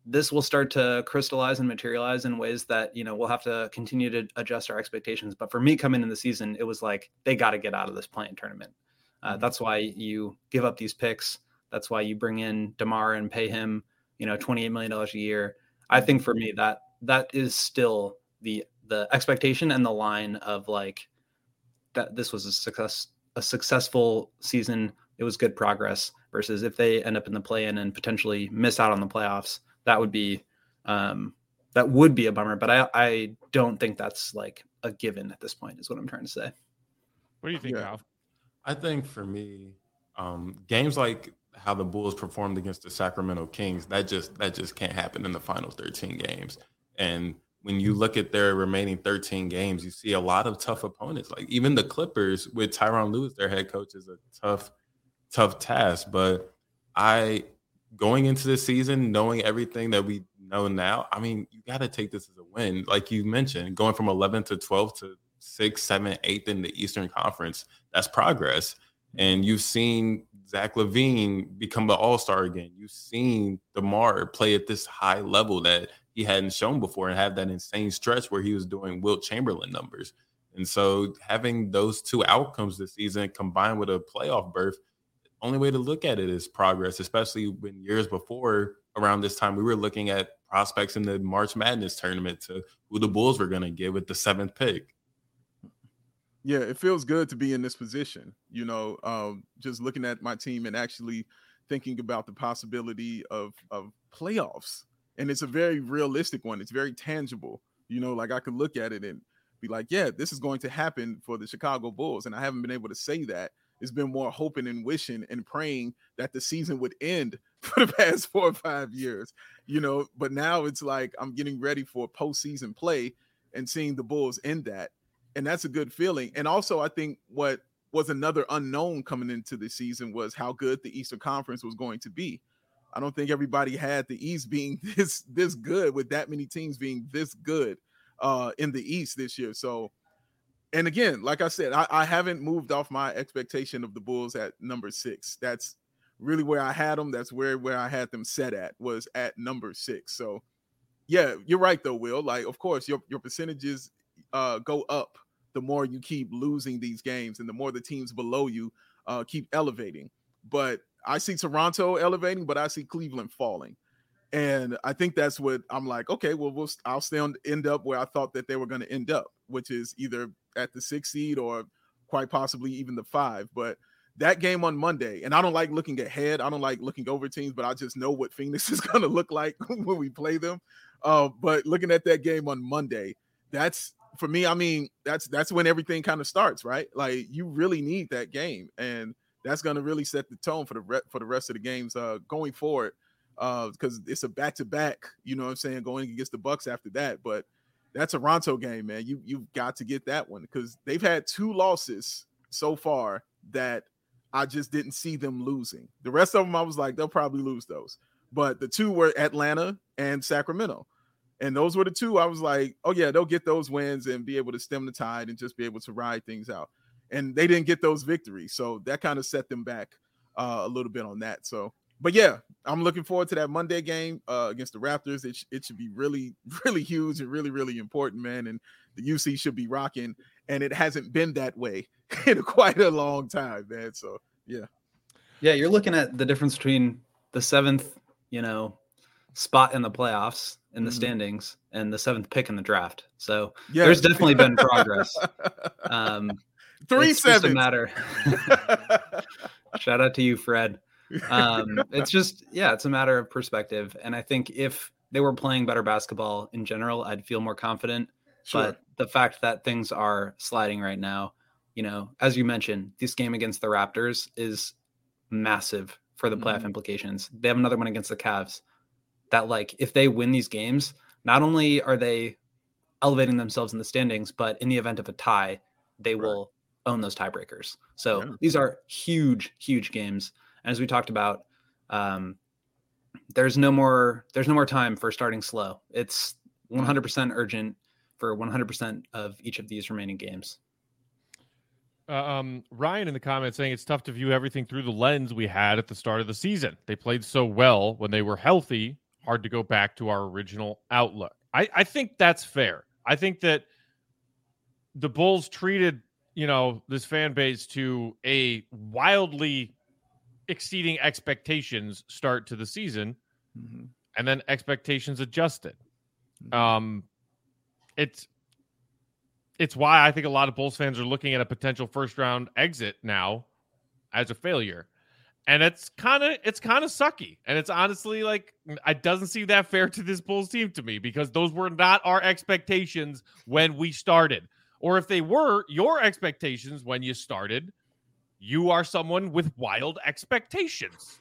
[SPEAKER 4] this will start to crystallize and materialize in ways that, you know, we'll have to continue to adjust our expectations. But for me coming in the season, it was like, they got to get out of this play-in tournament. Uh, mm-hmm. That's why you give up these picks. That's why you bring in DeMar and pay him, you know, twenty-eight million dollars a year. I think for me that that is still the, the expectation and the line of like, that this was a success, a successful season. It was good progress versus if they end up in the play-in and potentially miss out on the playoffs, that would be, um, that would be a bummer, but I, I don't think that's like a given at this point is what I'm trying to say.
[SPEAKER 1] What do you think,
[SPEAKER 2] yeah.
[SPEAKER 1] Kyle?
[SPEAKER 2] I think for me, um, games like how the Bulls performed against the Sacramento Kings, that just, that just can't happen in the final thirteen games. And when you look at their remaining thirteen games, you see a lot of tough opponents. Like even the Clippers with Tyronn Lue, their head coach, is a tough, tough task. But I, going into the season, knowing everything that we know now, I mean, you got to take this as a win. Like you mentioned, going from eleventh to twelfth to sixth, seventh, eighth in the Eastern Conference, that's progress. And you've seen Zach LaVine become an all-star again. You've seen DeMar play at this high level that he hadn't shown before and have that insane stretch where he was doing Wilt Chamberlain numbers. And so having those two outcomes this season combined with a playoff berth, only way to look at it is progress, especially when years before around this time, we were looking at prospects in the March Madness tournament to who the Bulls were going to get with the seventh pick.
[SPEAKER 3] Yeah, it feels good to be in this position, you know, um, just looking at my team and actually thinking about the possibility of, of playoffs. And it's a very realistic one. It's very tangible. You know, like I could look at it and be like, yeah, this is going to happen for the Chicago Bulls. And I haven't been able to say that. It's been more hoping and wishing and praying that the season would end for the past four or five years, you know, but now it's like I'm getting ready for postseason play and seeing the Bulls end that. And that's a good feeling. And also, I think what was another unknown coming into the season was how good the Eastern Conference was going to be. I don't think everybody had the East being this this good with that many teams being this good uh, in the East this year. So, and again, like I said, I, I haven't moved off my expectation of the Bulls at number six. That's really where I had them. That's where, where I had them set at, was at number six. So, yeah, you're right, though, Will. Like, of course, your, your percentages uh, go up the more you keep losing these games and the more the teams below you uh, keep elevating. But I see Toronto elevating, but I see Cleveland falling. And I think that's what I'm like, okay, well, we'll I'll stay on end up where I thought that they were going to end up, which is either at the sixth seed or quite possibly even the five. But that game on Monday, and I don't like looking ahead. I don't like looking over teams, but I just know what Phoenix is going to look like when we play them. Uh, but looking at that game on Monday, that's, for me, I mean, that's that's when everything kind of starts, right? Like, you really need that game, and that's going to really set the tone for the re- for the rest of the games uh, going forward, because uh, it's a back-to-back, you know what I'm saying, going against the Bucks after that. But that Toronto game, man, you, you've got to get that one, because they've had two losses so far that I just didn't see them losing. The rest of them, I was like, they'll probably lose those. But the two were Atlanta and Sacramento. And those were the two I was like, oh, yeah, they'll get those wins and be able to stem the tide and just be able to ride things out. And they didn't get those victories. So that kind of set them back uh, a little bit on that. So, but yeah, I'm looking forward to that Monday game uh, against the Raptors. It, sh- it should be really, really huge and really, really important, man. And the U C should be rocking. And it hasn't been that way in quite a long time, man. So, yeah.
[SPEAKER 4] Yeah, you're looking at the difference between the seventh, you know, spot in the playoffs in the mm-hmm. standings and the seventh pick in the draft. So yes. There's definitely been progress. Um,
[SPEAKER 3] Three
[SPEAKER 4] it's
[SPEAKER 3] sevens.
[SPEAKER 4] Just a matter. Shout out to you, Fred. Um, it's just, yeah, it's a matter of perspective. And I think if they were playing better basketball in general, I'd feel more confident. Sure. But the fact that things are sliding right now, you know, as you mentioned, this game against the Raptors is massive for the playoff mm-hmm. implications. They have another one against the Cavs. That, like, if they win these games, not only are they elevating themselves in the standings, but in the event of a tie, they right. will own those tiebreakers. So yeah. these are huge, huge games. And as we talked about, um, there's no more, there's no more time for starting slow. It's one hundred percent urgent for one hundred percent of each of these remaining games.
[SPEAKER 1] Uh, um, Ryan in the comments saying it's tough to view everything through the lens we had at the start of the season. They played so well when they were healthy. hard to go back to our original outlook. I, I think that's fair. I think that the Bulls treated, you know, this fan base to a wildly exceeding expectations start to the season, mm-hmm. and then expectations adjusted. Mm-hmm. Um, it's it's why I think a lot of Bulls fans are looking at a potential first round exit now as a failure. And it's kind of it's kind of sucky. And it's honestly like, it doesn't seem that fair to this Bulls team to me, because those were not our expectations when we started. Or if they were your expectations when you started, you are someone with wild expectations.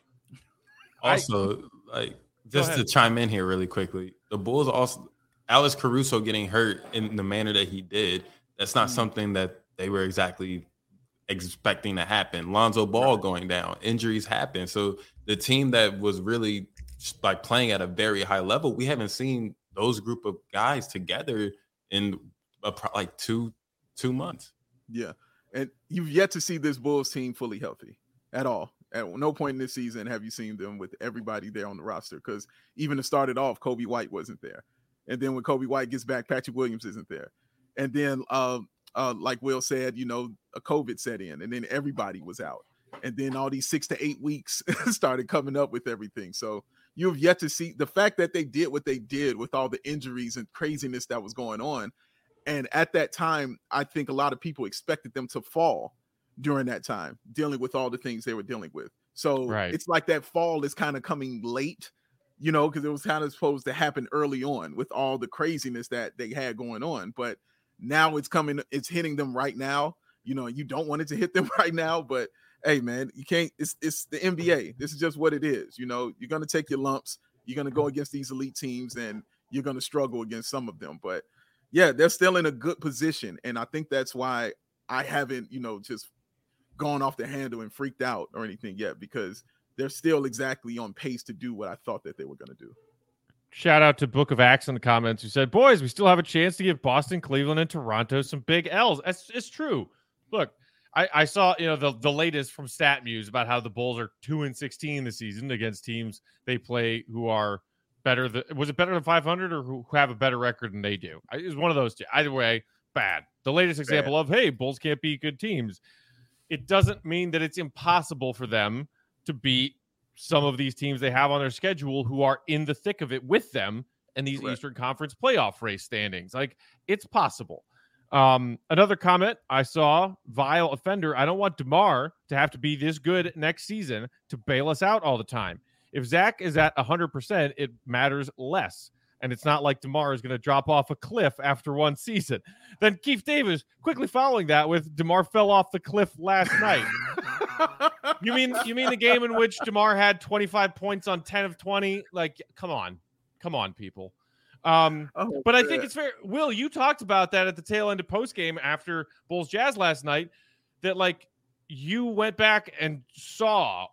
[SPEAKER 2] Also, I, like, just to chime in here really quickly, the Bulls also, Alex Caruso getting hurt in the manner that he did, that's not mm-hmm. something that they were exactly expecting to happen. Lonzo Ball going down, injuries happen. So the team that was really like playing at a very high level, we haven't seen those group of guys together in a, like two two months.
[SPEAKER 3] Yeah, and you've yet to see this Bulls team fully healthy at all. At no point in this season have you seen them with everybody there on the roster, because even to start it off, Kobe White wasn't there, and then when Kobe White gets back, Patrick Williams isn't there, and then um Uh, like Will said, you know, a COVID set in, and then everybody was out. And then all these six to eight weeks started coming up with everything. So you have yet to see the fact that they did what they did with all the injuries and craziness that was going on. And at that time, I think a lot of people expected them to fall during that time, dealing with all the things they were dealing with. So right. It's like that fall is kind of coming late, you know, because it was kind of supposed to happen early on with all the craziness that they had going on. But now it's coming, it's hitting them right now. You know, you don't want it to hit them right now, but hey, man, you can't, it's it's the N B A. This is just what it is. You know, you're going to take your lumps. You're going to go against these elite teams, and you're going to struggle against some of them. But yeah, they're still in a good position. And I think that's why I haven't, you know, just gone off the handle and freaked out or anything yet, because they're still exactly on pace to do what I thought that they were going to do.
[SPEAKER 1] Shout out to Book of Axe in the comments, who said, boys, we still have a chance to give Boston, Cleveland, and Toronto some big L's. It's, it's true. Look, I, I saw, you know, the, the latest from StatMuse about how the Bulls are two and sixteen this season against teams they play who are better than, was it better than five hundred, or who, who have a better record than they do? It was one of those two. Either way, bad. The latest example bad. of, hey, Bulls can't beat good teams. It doesn't mean that it's impossible for them to beat some of these teams they have on their schedule who are in the thick of it with them in these Correct. Eastern Conference playoff race standings. Like, it's possible. Um, another comment I saw, vile offender. I don't want DeMar to have to be this good next season to bail us out all the time. If Zach is at one hundred percent, it matters less. And it's not like DeMar is going to drop off a cliff after one season. Then Keith Davis quickly following that with DeMar fell off the cliff last night. You mean you mean the game in which DeMar had twenty-five points on ten of twenty? Like, come on. Come on, people. Um, oh, but I think it's fair. Will, you talked about that at the tail end of postgame after Bulls Jazz last night, that, like, you went back and saw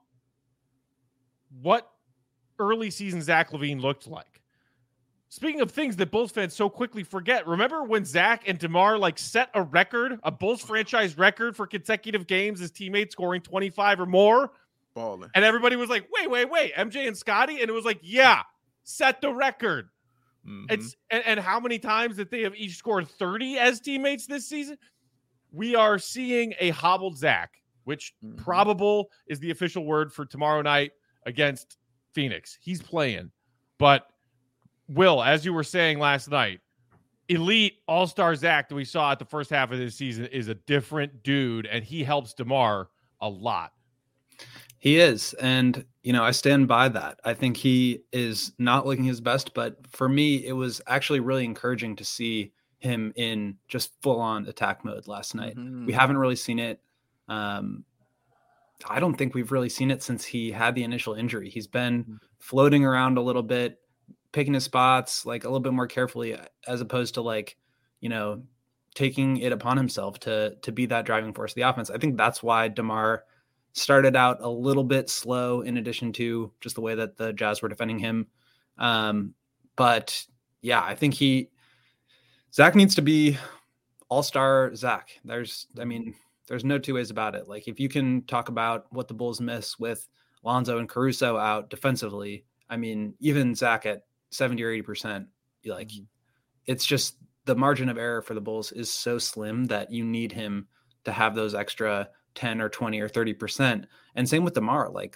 [SPEAKER 1] what early season Zach LaVine looked like. Speaking of things that Bulls fans so quickly forget, remember when Zach and DeMar like set a record, a Bulls franchise record for consecutive games as teammates scoring twenty-five or more?
[SPEAKER 3] Balling.
[SPEAKER 1] And everybody was like, wait, wait, wait, M J and Scotty? And it was like, yeah, set the record. Mm-hmm. It's and, and how many times that they have each scored thirty as teammates this season? We are seeing a hobbled Zach, which mm-hmm. probable is the official word for tomorrow night against Phoenix. He's playing, but Will, as you were saying last night, elite all-star Zach that we saw at the first half of this season is a different dude, and he helps DeMar a lot.
[SPEAKER 4] He is, and, you know, I stand by that. I think he is not looking his best, but for me, it was actually really encouraging to see him in just full-on attack mode last night. Mm-hmm. We haven't really seen it. Um, I don't think we've really seen it since he had the initial injury. He's been floating around a little bit, picking his spots like a little bit more carefully, as opposed to, like, you know, taking it upon himself to to be that driving force of the offense. I think that's why DeMar started out a little bit slow, in addition to just the way that the Jazz were defending him. Um, but yeah, I think he Zach needs to be all-star Zach. There's, I mean, there's no two ways about it. Like, if you can talk about what the Bulls miss with Lonzo and Caruso out defensively, I mean, even Zach at seventy or eighty percent, like mm-hmm. it's just the margin of error for the Bulls is so slim that you need him to have those extra ten or twenty or thirty percent. And same with DeMar. Like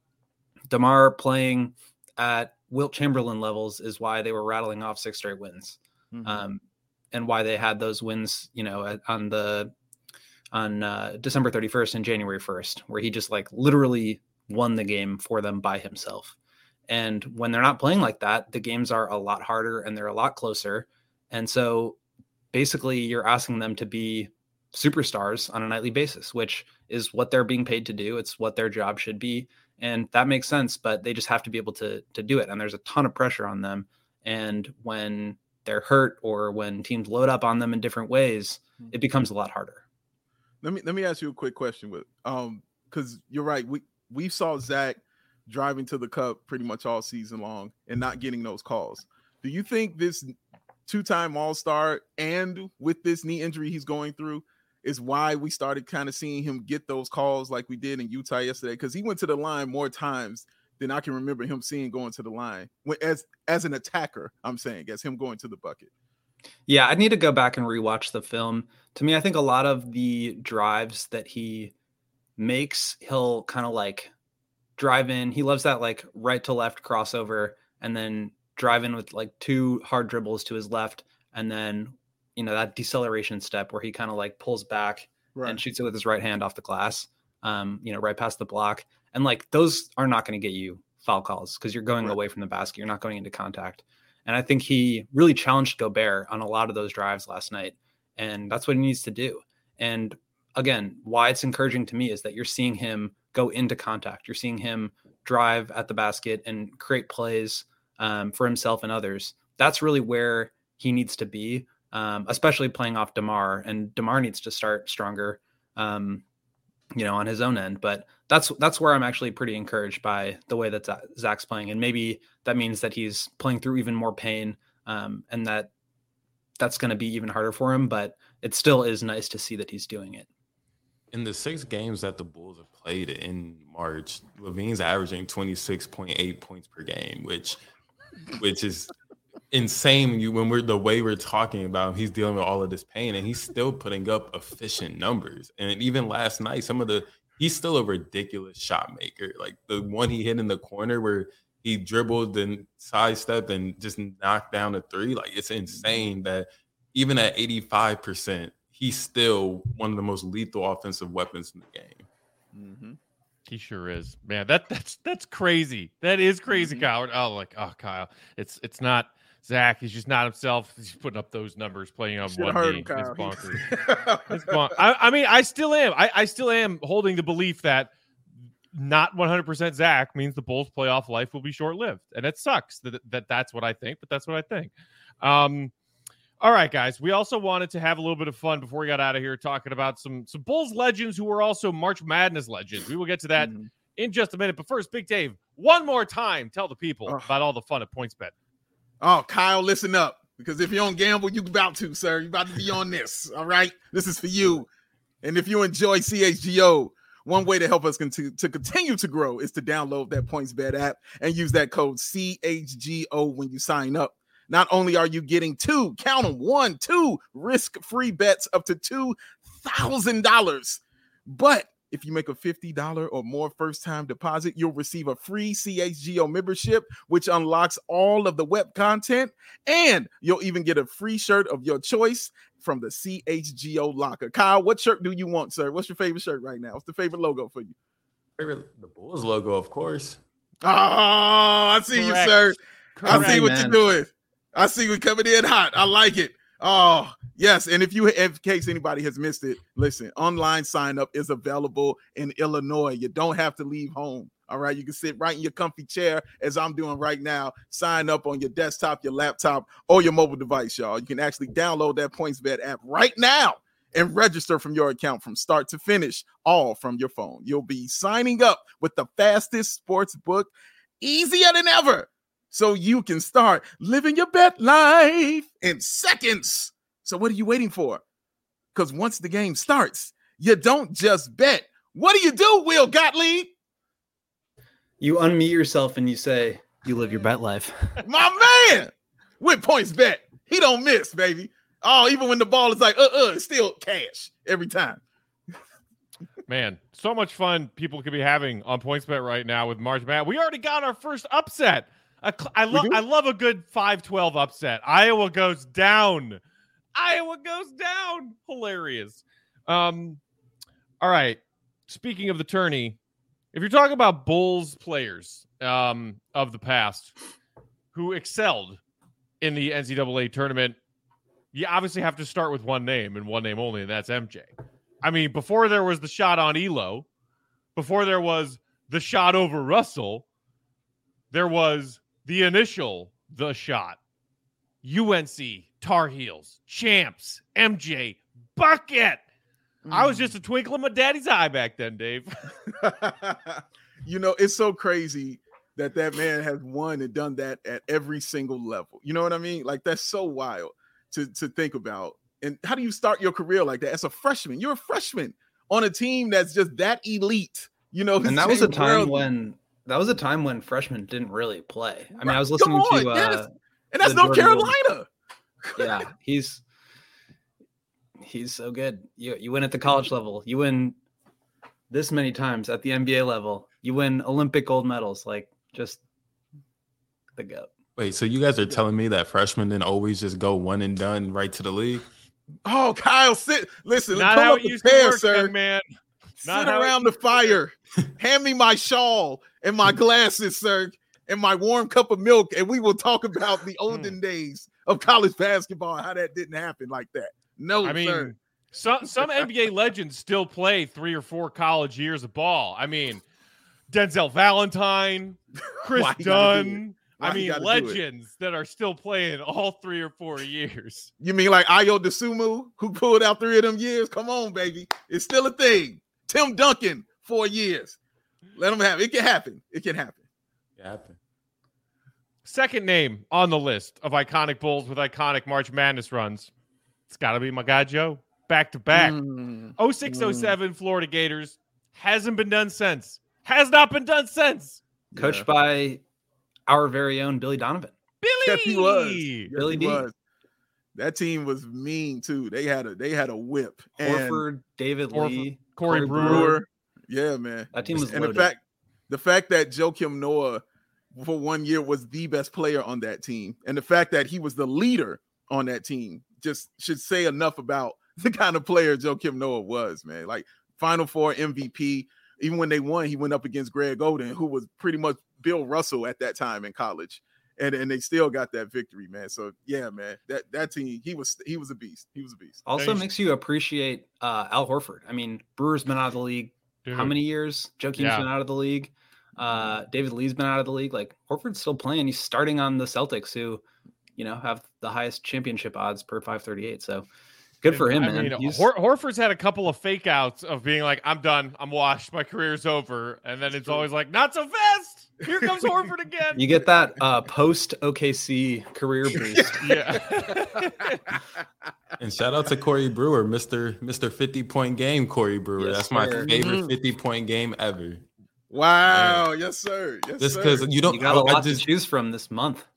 [SPEAKER 4] DeMar playing at Wilt Chamberlain levels is why they were rattling off six straight wins. Mm-hmm. Um, and why they had those wins, you know, on the on uh, December thirty-first and January first, where he just like literally won the game for them by himself. And when they're not playing like that, the games are a lot harder and they're a lot closer. And so basically you're asking them to be superstars on a nightly basis, which is what they're being paid to do. It's what their job should be. And that makes sense, but they just have to be able to, to do it. And there's a ton of pressure on them. And when they're hurt or when teams load up on them in different ways, it becomes a lot harder.
[SPEAKER 3] Let me, let me ask you a quick question with, um, cause you're right. We, we saw Zach driving to the cup pretty much all season long and not getting those calls. Do you think this two-time All-Star and with this knee injury he's going through is why we started kind of seeing him get those calls like we did in Utah yesterday? Because he went to the line more times than I can remember him seeing going to the line as as an attacker. I'm saying as him going to the bucket.
[SPEAKER 4] Yeah, I need to go back and rewatch the film. To me, I think a lot of the drives that he makes, he'll kind of like drive in. He loves that like right to left crossover and then drive in with like two hard dribbles to his left. And then, you know, that deceleration step where he kind of like pulls back right. and shoots it with his right hand off the glass, um, you know, right past the block. And like, those are not going to get you foul calls because you're going right. away from the basket. You're not going into contact. And I think he really challenged Gobert on a lot of those drives last night. And that's what he needs to do. And again, why it's encouraging to me is that you're seeing him go into contact. You're seeing him drive at the basket and create plays um, for himself and others. That's really where he needs to be, um, especially playing off DeMar. And DeMar needs to start stronger, um, you know, on his own end. But that's that's where I'm actually pretty encouraged by the way that Zach's playing. And maybe that means that he's playing through even more pain um, and that that's going to be even harder for him. But it still is nice to see that he's doing it.
[SPEAKER 2] In the six games that the Bulls have played in March, LaVine's averaging twenty-six point eight points per game, which which is insane when you when we're the way we're talking about him, he's dealing with all of this pain and he's still putting up efficient numbers. And even last night, some of the he's still a ridiculous shot maker. Like the one he hit in the corner where he dribbled and sidestepped and just knocked down a three. Like it's insane that even at eighty-five percent, he's still one of the most lethal offensive weapons in the game.
[SPEAKER 1] Mm-hmm. He sure is, man. That that's that's crazy. That is crazy,
[SPEAKER 3] Mm-hmm.
[SPEAKER 1] Kyle. Oh, like oh, Kyle. It's it's not Zach. He's just not himself. He's putting up those numbers, playing on
[SPEAKER 3] Should've
[SPEAKER 1] one
[SPEAKER 3] heard
[SPEAKER 1] knee.
[SPEAKER 3] him, Kyle.
[SPEAKER 1] It's bonkers. It's bon- I, I mean, I still am. I, I still am holding the belief that not one hundred percent Zach means the Bulls' playoff life will be short-lived, and it sucks that, that that's what I think. But that's what I think. Um. All right, guys. We also wanted to have a little bit of fun before we got out of here talking about some, some Bulls legends who were also March Madness legends. We will get to that mm-hmm. in just a minute. But first, Big Dave, one more time, tell the people oh. about all the fun at PointsBet.
[SPEAKER 3] Oh, Kyle, listen up. Because if you don't gamble, you about to, sir. You're about to be on this. All right? This is for you. And if you enjoy C H G O, one way to help us continue to continue to grow is to download that PointsBet app and use that code C H G O when you sign up. Not only are you getting two, count them, one, two risk-free bets up to two thousand dollars, but if you make a fifty dollars or more first-time deposit, you'll receive a free C H G O membership, which unlocks all of the web content, and you'll even get a free shirt of your choice from the C H G O locker. Kyle, what shirt do you want, sir? What's your favorite shirt right now? What's the favorite logo for you?
[SPEAKER 2] Favorite, the Bulls logo, of course.
[SPEAKER 3] Oh, I see Correct. you, sir. Correct, I see what man. you're doing. I see we coming in hot. I like it. Oh, yes. And if you, in case anybody has missed it, listen, online sign up is available in Illinois. You don't have to leave home. All right. You can sit right in your comfy chair as I'm doing right now. Sign up on your desktop, your laptop, or your mobile device, y'all. You can actually download that PointsBet app right now and register from your account from start to finish, all from your phone. You'll be signing up with the fastest sports book, easier than ever. So you can start living your bet life in seconds. So what are you waiting for? Because once the game starts, you don't just bet. What do you do, Will Gottlieb?
[SPEAKER 4] You unmute yourself and you say, You live your bet life.
[SPEAKER 3] My man with points bet. He don't miss, baby. Oh, even when the ball is like, uh, uh, it's still cash every time.
[SPEAKER 1] Man, so much fun people could be having on PointsBet right now with March Madness. We already got our first upset. A cl- I love I love a good five twelve upset. Iowa goes down. Iowa goes down. Hilarious. Um, all right. Speaking of the tourney, if you're talking about Bulls players um, of the past who excelled in the N C double A tournament, you obviously have to start with one name and one name only, and that's M J. I mean, before there was the shot on Elo, before there was the shot over Russell, there was the initial the shot. U N C, Tar Heels, champs, M J, bucket. Mm. I was just a twinkle in my daddy's eye back then, Dave.
[SPEAKER 3] You know, it's so crazy that that man has won and done that at every single level. You know what I mean? Like, that's so wild to, to think about. And how do you start your career like that as a freshman? You're a freshman on a team that's just that elite, you know.
[SPEAKER 4] And that was a time when that was a time when freshmen didn't really play. I mean, right. I was listening
[SPEAKER 3] on,
[SPEAKER 4] to, uh,
[SPEAKER 3] yes. and that's North Carolina.
[SPEAKER 4] Yeah, he's he's so good. You you win at the college level. You win this many times at the N B A level. You win Olympic gold medals. Like, just the GOAT.
[SPEAKER 2] Wait, so you guys are telling me that freshmen didn't always just go one and done right to the league?
[SPEAKER 3] Oh, Kyle, sit. Listen,
[SPEAKER 1] not how it used to work, sir. Man.
[SPEAKER 3] Sit around the fire. Hand me my shawl and my glasses, sir, and my warm cup of milk, and we will talk about the olden days of college basketball and how that didn't happen like that. No,
[SPEAKER 1] I mean,
[SPEAKER 3] sir.
[SPEAKER 1] Some some N B A legends still play three or four college years of ball. I mean, Denzel Valentine, Chris Dunn. I mean, legends that are still playing all three or four years.
[SPEAKER 3] You mean like Ayo Dosunmu, who pulled out three of them years? Come on, baby. It's still a thing. Tim Duncan, four years. Let them have it. It can happen. It can happen.
[SPEAKER 2] It can happen.
[SPEAKER 1] Second name on the list of iconic Bulls with iconic March Madness runs. It's got to be my guy, Joe. Back to back.
[SPEAKER 3] Mm.
[SPEAKER 1] oh six oh seven mm. Florida Gators. Hasn't been done since. Has not been done since.
[SPEAKER 4] Coached yeah. by our very own Billy Donovan.
[SPEAKER 1] Billy,
[SPEAKER 3] yes, he was. Yes,
[SPEAKER 4] Billy
[SPEAKER 3] he
[SPEAKER 4] D.
[SPEAKER 3] was. That team was mean too. They had a they had a whip.
[SPEAKER 4] Horford,
[SPEAKER 3] and
[SPEAKER 4] David
[SPEAKER 1] Horford,
[SPEAKER 4] Lee,
[SPEAKER 1] Corey, Corey Brewer.
[SPEAKER 3] Brewer. Yeah, man.
[SPEAKER 4] That team was
[SPEAKER 3] and
[SPEAKER 4] loaded.
[SPEAKER 3] the fact the fact that Joakim Noah for one year was the best player on that team, and the fact that he was the leader on that team just should say enough about the kind of player Joakim Noah was, man. Like Final Four M V P. Even when they won, he went up against Greg Oden, who was pretty much Bill Russell at that time in college. And, and they still got that victory, man. So yeah, man, that, that team, he was he was a beast. He was a beast.
[SPEAKER 4] Also
[SPEAKER 1] Thanks.
[SPEAKER 4] Makes you appreciate uh, Al Horford. I mean, Brewer's been out of the league Dude. how many years? Joakim's yeah. been out of the league. Uh, David Lee's been out of the league. Like, Horford's still playing. He's starting on the Celtics, who, you know, have the highest championship odds per five thirty-eight. So good for him,
[SPEAKER 1] I
[SPEAKER 4] man.
[SPEAKER 1] Mean, Hor- Horford's had a couple of fake outs of being like, I'm done. I'm washed. My career's over. And then it's always like, not so fast. Here comes Horford again.
[SPEAKER 4] You get that uh, post O K C career boost.
[SPEAKER 1] Yeah.
[SPEAKER 2] And shout out to Corey Brewer, Mister Mister fifty point game, Corey Brewer. Yes, That's my sir. favorite mm-hmm. fifty point game ever.
[SPEAKER 3] Wow. Man. Yes, sir. Yes,
[SPEAKER 2] Just because you don't
[SPEAKER 4] you got a lot
[SPEAKER 2] just,
[SPEAKER 4] to choose from this month.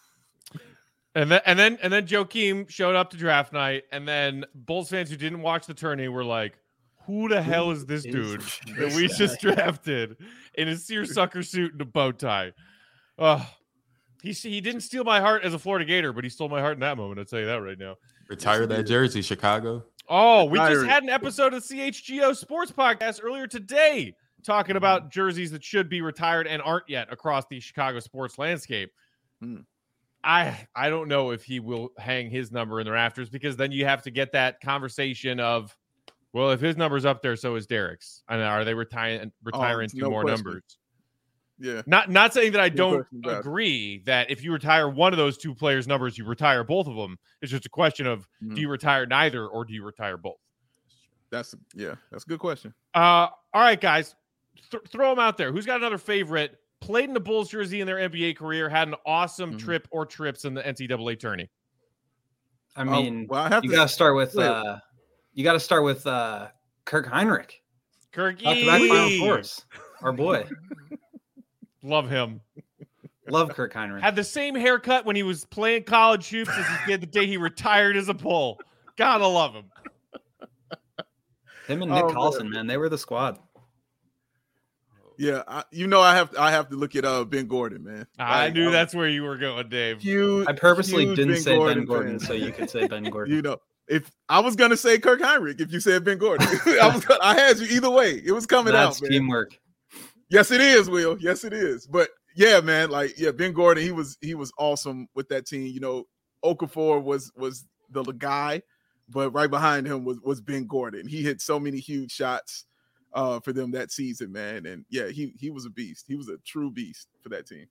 [SPEAKER 1] And then and then and then Joakim showed up to draft night, and then Bulls fans who didn't watch the tourney were like, who the hell is this dude that we just drafted in a seersucker suit and a bow tie? Oh, he he didn't steal my heart as a Florida Gator, but he stole my heart in that moment. I'll tell you that right now.
[SPEAKER 2] Retire that jersey, Chicago.
[SPEAKER 1] Oh, we just had an episode of C H G O Sports Podcast earlier today talking about jerseys that should be retired and aren't yet across the Chicago sports landscape.
[SPEAKER 3] Hmm.
[SPEAKER 1] I I don't know if he will hang his number in the rafters, because then you have to get that conversation of, well, if his number's up there, so is Derek's. And are they retiring retiring oh, two no more question. numbers?
[SPEAKER 3] Yeah.
[SPEAKER 1] Not not saying that I
[SPEAKER 3] no
[SPEAKER 1] don't agree that if you retire one of those two players' numbers, you retire both of them. It's just a question of mm-hmm. do you retire neither or do you retire both?
[SPEAKER 3] That's yeah, that's a good question.
[SPEAKER 1] Uh, all right, guys, Th- throw them out there. Who's got another favorite? Played in the Bulls jersey in their N B A career, had an awesome mm-hmm. trip or trips in the N C double A tourney.
[SPEAKER 4] I mean,
[SPEAKER 3] oh, well, I have
[SPEAKER 4] you
[SPEAKER 3] to...
[SPEAKER 4] got to start with uh, you got to start with uh, Kirk Heinrich.
[SPEAKER 1] Kirk
[SPEAKER 4] back Final Fours, our boy.
[SPEAKER 1] Love him.
[SPEAKER 4] Love Kirk Heinrich.
[SPEAKER 1] Had the same haircut when he was playing college hoops as he did the day he retired as a Bull. Gotta love him.
[SPEAKER 4] Him and Nick
[SPEAKER 3] Oh,
[SPEAKER 4] Collison,
[SPEAKER 3] man.
[SPEAKER 4] man, they were the squad.
[SPEAKER 3] Yeah, I, you know I have I have to look at uh Ben Gordon, man.
[SPEAKER 1] I
[SPEAKER 3] Like,
[SPEAKER 1] knew
[SPEAKER 3] I'm
[SPEAKER 1] that's where you were going, Dave.
[SPEAKER 3] huge.
[SPEAKER 4] I purposely
[SPEAKER 3] huge
[SPEAKER 4] didn't
[SPEAKER 3] Ben
[SPEAKER 4] say
[SPEAKER 3] Gordon
[SPEAKER 4] Ben Gordon
[SPEAKER 3] fan.
[SPEAKER 4] so you could say Ben Gordon.
[SPEAKER 3] You know, if I was gonna say Kirk Heinrich, if you said Ben Gordon, I was gonna, I had you either way. It was coming
[SPEAKER 4] That's
[SPEAKER 3] out, man.
[SPEAKER 4] teamwork.
[SPEAKER 3] Yes, it is, Will. Yes, it is. But yeah, man, like yeah, Ben Gordon, he was he was awesome with that team. You know, Okafor was was the guy, but right behind him was was Ben Gordon. He hit so many huge shots uh for them that season, man. And yeah, he he was a beast. He was a true beast for that team.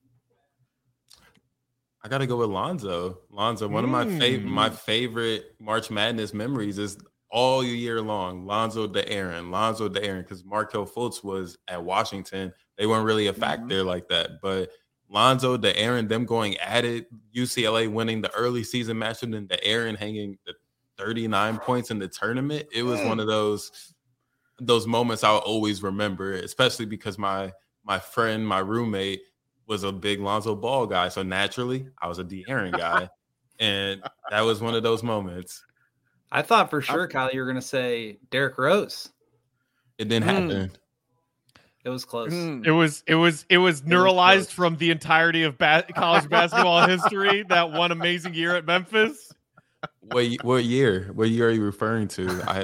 [SPEAKER 2] I gotta go with Lonzo. Lonzo, one of my favorite
[SPEAKER 1] Mm.
[SPEAKER 2] my favorite March Madness memories is all year long. Lonzo De'Aaron, Lonzo De'Aaron, because Markelle Fultz was at Washington. They weren't really a factor like that, but Lonzo De'Aaron, them going at it. U C L A winning the early season matchup, and De'Aaron hanging the thirty-nine points in the tournament. It was one of those those moments I'll always remember, especially because my my friend, my roommate, was a big Lonzo Ball guy. So naturally, I was a De'Aaron guy. And that was one of those moments.
[SPEAKER 4] I thought for sure, Kyle, you were going to say Derrick Rose.
[SPEAKER 2] It didn't
[SPEAKER 3] Mm.
[SPEAKER 2] happen.
[SPEAKER 4] It was close.
[SPEAKER 3] Mm.
[SPEAKER 1] It was it was it was
[SPEAKER 3] was
[SPEAKER 1] neuralized
[SPEAKER 3] close.
[SPEAKER 1] from the entirety of ba- college basketball history. That one amazing year at Memphis.
[SPEAKER 2] What, y- what year? What year are you referring to? I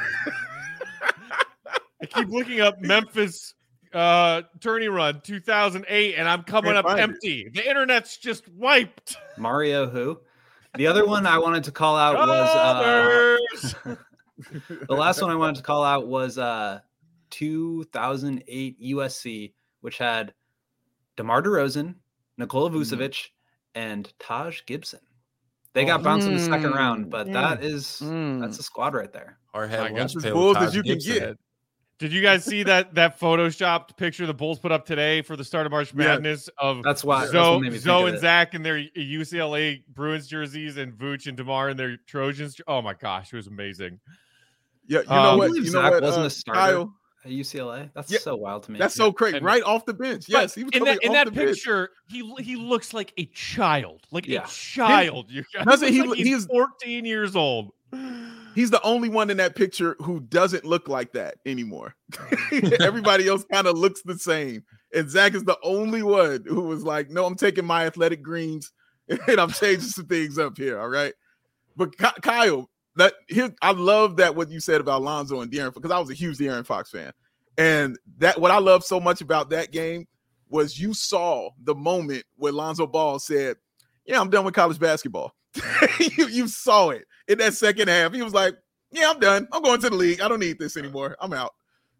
[SPEAKER 1] I keep looking up Memphis uh tourney run two thousand eight, and I'm coming
[SPEAKER 3] Can't
[SPEAKER 1] up
[SPEAKER 3] find it.
[SPEAKER 1] empty. The internet's just wiped.
[SPEAKER 4] Mario who? The other one I wanted to call out was
[SPEAKER 1] Others!
[SPEAKER 4] uh, the last one I wanted to call out was uh, two thousand eight U S C, which had DeMar DeRozan, Nikola Vucevic, and Taj Gibson. They got bounced in the second round, but that is
[SPEAKER 3] Mm.
[SPEAKER 4] that's a squad right there.
[SPEAKER 2] hard
[SPEAKER 1] My
[SPEAKER 2] had
[SPEAKER 1] God.
[SPEAKER 2] lunch
[SPEAKER 3] As
[SPEAKER 2] pail
[SPEAKER 3] Bulls
[SPEAKER 2] with
[SPEAKER 3] as
[SPEAKER 2] Taj
[SPEAKER 3] you can
[SPEAKER 2] Gibson.
[SPEAKER 3] get.
[SPEAKER 1] Did you guys see that that photoshopped picture the Bulls put up today for the start of March
[SPEAKER 3] Yeah.
[SPEAKER 1] Madness of
[SPEAKER 4] That's why that's
[SPEAKER 1] Zoe,
[SPEAKER 4] what made me think
[SPEAKER 1] Zoe
[SPEAKER 4] of
[SPEAKER 1] and
[SPEAKER 4] it.
[SPEAKER 1] Zach in their U C L A Bruins jerseys and Vooch and DeMar in their Trojans? Oh my gosh, it was amazing.
[SPEAKER 3] Yeah, you
[SPEAKER 1] Um,
[SPEAKER 3] know
[SPEAKER 1] I
[SPEAKER 3] what?
[SPEAKER 4] believe
[SPEAKER 3] You know
[SPEAKER 4] Zach
[SPEAKER 3] what?
[SPEAKER 4] wasn't
[SPEAKER 3] uh,
[SPEAKER 4] a starter.
[SPEAKER 3] Kyle,
[SPEAKER 4] At U C L A. That's
[SPEAKER 3] Yeah,
[SPEAKER 4] so wild to me.
[SPEAKER 3] that's so crazy.
[SPEAKER 1] And-
[SPEAKER 3] Right off the bench.
[SPEAKER 1] But
[SPEAKER 3] Yes, he was
[SPEAKER 1] in
[SPEAKER 3] coming
[SPEAKER 1] that in
[SPEAKER 3] off
[SPEAKER 1] that
[SPEAKER 3] the bench.
[SPEAKER 1] picture, he he looks like a child, like
[SPEAKER 4] Yeah.
[SPEAKER 1] a child. You guys.
[SPEAKER 3] Doesn't he
[SPEAKER 1] Looks like
[SPEAKER 3] look-
[SPEAKER 1] he's
[SPEAKER 3] he's-
[SPEAKER 1] fourteen years old.
[SPEAKER 3] He's the only one in that picture who doesn't look like that anymore. Everybody else kind of looks the same. And Zach is the only one who was like, no, I'm taking my athletic greens and I'm changing some things up here. All right. But Ky- Kyle, that here, I love that what you said about Lonzo and De'Aaron, because I was a huge De'Aaron Fox fan. And that what I love so much about that game was you saw the moment where Lonzo Ball said, yeah, I'm done with college basketball. you, you saw it in that second half. He was like, yeah, I'm done. I'm going to the league. I don't need this anymore. I'm out.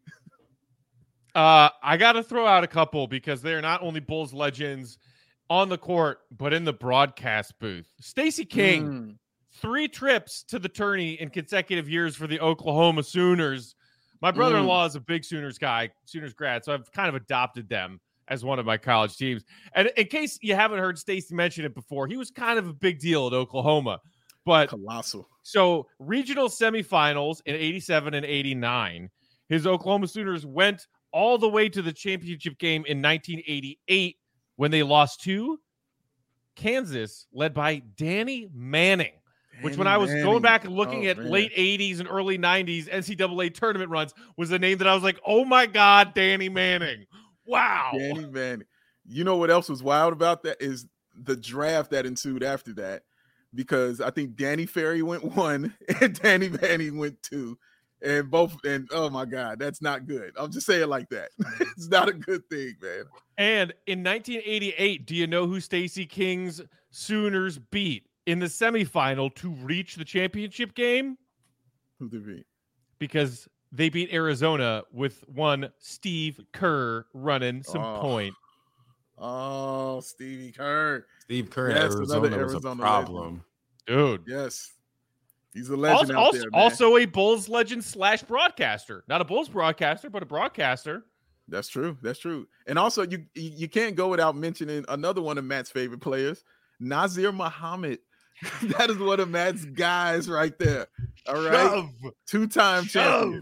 [SPEAKER 1] Uh, I got to throw out a couple because they are not only Bulls legends on the court, but in the broadcast booth. Stacey King,
[SPEAKER 3] Mm.
[SPEAKER 1] three trips to the tourney in consecutive years for the Oklahoma Sooners. My brother-in-law is a big Sooners guy, Sooners grad, so I've kind of adopted them as one of my college teams. And in case you haven't heard Stacey mention it before, he was kind of a big deal at Oklahoma. But
[SPEAKER 3] Colossal.
[SPEAKER 1] so regional semifinals in eighty-seven and eighty-nine, his Oklahoma Sooners went all the way to the championship game in nineteen eighty-eight when they lost to Kansas, led by Danny Manning. Which, when I was going back and looking
[SPEAKER 3] Oh,
[SPEAKER 1] at
[SPEAKER 3] man.
[SPEAKER 1] late eighties and early nineties N C double A tournament runs, was a name that I was like, oh my God, Danny Manning. Wow.
[SPEAKER 3] Danny Manning. You know what else was wild about that is the draft that ensued after that, because I think Danny Ferry went one and Danny Manning went two, and both. And oh my God, that's not good. I'll just say it like that. It's not a good thing, man.
[SPEAKER 1] And in nineteen eighty-eight, do you know who Stacey King's Sooners beat in the semifinal to reach the championship game?
[SPEAKER 3] Who did beat?
[SPEAKER 1] Because they beat Arizona with one Steve Kerr running some
[SPEAKER 3] Oh.
[SPEAKER 1] point.
[SPEAKER 3] Oh, Stevie Kerr.
[SPEAKER 2] Steve Kerr in
[SPEAKER 3] Yes, another
[SPEAKER 2] Arizona was a
[SPEAKER 3] Arizona
[SPEAKER 2] problem.
[SPEAKER 1] Dude.
[SPEAKER 3] Yes, he's a legend
[SPEAKER 1] Also,
[SPEAKER 3] out
[SPEAKER 1] also,
[SPEAKER 3] there, man.
[SPEAKER 1] also a Bulls legend slash broadcaster. Not a Bulls broadcaster, but a broadcaster.
[SPEAKER 3] That's true. That's true. And also, you you you can't go without mentioning another one of Matt's favorite players, Nazir Muhammad. That is one of Matt's guys right there. All right,
[SPEAKER 1] Shove.
[SPEAKER 3] two-time champion.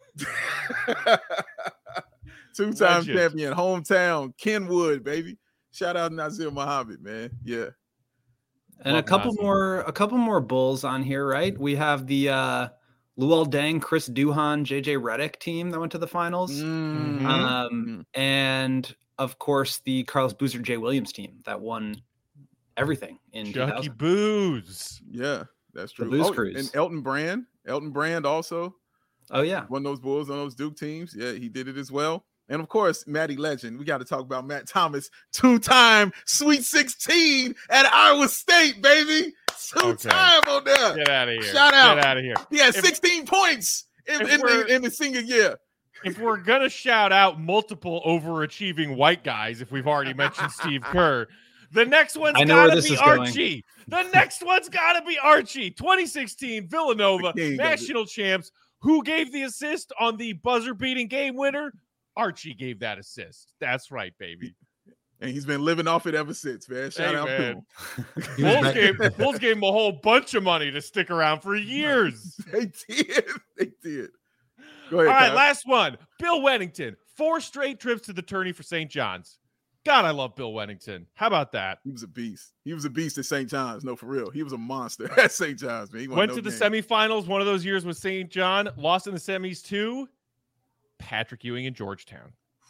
[SPEAKER 1] Shove.
[SPEAKER 3] Two-time
[SPEAKER 1] Legend.
[SPEAKER 3] champion, hometown, Kenwood, baby. Shout out Nazir Muhammad, man. Yeah.
[SPEAKER 4] And
[SPEAKER 1] Love
[SPEAKER 4] a couple
[SPEAKER 1] Nazir.
[SPEAKER 4] more, a couple more Bulls on here, right? We have the uh, Luol Deng, Chris Duhon, J J Redick team that went to the finals,
[SPEAKER 3] Mhm.
[SPEAKER 4] um, and of course the Carlos Boozer, Jay Williams team that won everything in two
[SPEAKER 1] Chucky
[SPEAKER 4] thousand.
[SPEAKER 1] Booze.
[SPEAKER 3] Yeah, that's
[SPEAKER 4] The
[SPEAKER 3] true.
[SPEAKER 4] Booze
[SPEAKER 3] Oh,
[SPEAKER 4] Cruise.
[SPEAKER 3] and Elton Brand. Elton Brand also
[SPEAKER 4] Oh yeah,
[SPEAKER 3] one of those Bulls on those Duke teams. Yeah, he did it as well. And of course, Matty Legend. We got to talk about Matt Thomas, two-time Sweet sixteen at Iowa State, baby. Two-time on there.
[SPEAKER 1] Get out of here.
[SPEAKER 3] Shout out.
[SPEAKER 1] Get out of here.
[SPEAKER 3] He had
[SPEAKER 1] If-
[SPEAKER 3] sixteen points in,
[SPEAKER 1] if
[SPEAKER 3] in,
[SPEAKER 1] we're-
[SPEAKER 3] the, in the senior year.
[SPEAKER 1] If we're going to shout out multiple overachieving white guys, if we've already mentioned Steve Kerr, the next one's
[SPEAKER 4] I know where
[SPEAKER 1] got to
[SPEAKER 4] this
[SPEAKER 1] be
[SPEAKER 4] is going.
[SPEAKER 1] Archie. The next one's got to be Archie. twenty sixteen Villanova
[SPEAKER 3] The king of it.
[SPEAKER 1] national champs. Who gave the assist on the buzzer-beating game winner? Archie gave that assist. That's right, baby.
[SPEAKER 3] And he's been living off it ever since, man. Shout
[SPEAKER 1] Hey,
[SPEAKER 3] out
[SPEAKER 1] man.
[SPEAKER 3] to him.
[SPEAKER 2] He was
[SPEAKER 1] Bulls
[SPEAKER 2] back-
[SPEAKER 1] gave, Bulls gave him a whole bunch of money to stick around for years.
[SPEAKER 3] They did. They did. Go
[SPEAKER 1] All
[SPEAKER 3] ahead,
[SPEAKER 1] right,
[SPEAKER 3] Kyle.
[SPEAKER 1] last one. Bill Wennington. Four straight trips to the tourney for Saint John's. God, I love Bill Wennington. How about that?
[SPEAKER 3] He was a beast. He was a beast at Saint John's. No, for real. He was a monster at Saint John's, man. He
[SPEAKER 1] Went
[SPEAKER 3] no
[SPEAKER 1] to the
[SPEAKER 3] game.
[SPEAKER 1] semifinals one of those years with Saint John. Lost in the semis to Patrick Ewing in Georgetown.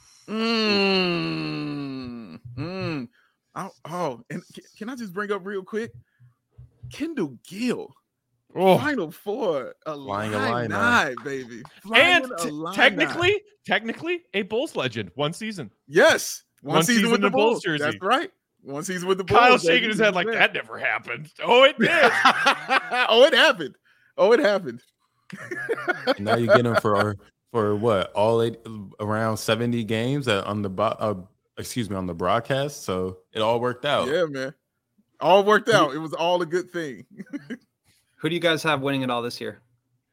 [SPEAKER 3] Mm, mm. Oh, oh, and c- can I just bring up real quick? Kendall Gill,
[SPEAKER 1] Oh,
[SPEAKER 3] Final Four, a
[SPEAKER 2] Flying
[SPEAKER 3] line
[SPEAKER 2] Illini.
[SPEAKER 3] nine, baby. Flying
[SPEAKER 1] and t-
[SPEAKER 3] Illini.
[SPEAKER 1] technically, technically, a Bulls legend. One season.
[SPEAKER 3] yes, one,
[SPEAKER 1] one
[SPEAKER 3] season,
[SPEAKER 1] season
[SPEAKER 3] with the
[SPEAKER 1] in a Bulls
[SPEAKER 3] Bulls.
[SPEAKER 1] jersey.
[SPEAKER 3] That's right. One season with the Bulls.
[SPEAKER 1] Kyle
[SPEAKER 3] baby.
[SPEAKER 1] shaking his head like that never happened. Oh, it did.
[SPEAKER 3] oh, it happened. Oh, it happened.
[SPEAKER 2] now you get him for for what all eight around seventy games at, on the bo- uh, excuse me on the broadcast. So it all worked out.
[SPEAKER 3] Yeah, man. All worked out. It was all a good thing.
[SPEAKER 4] who do you guys have winning it all this year?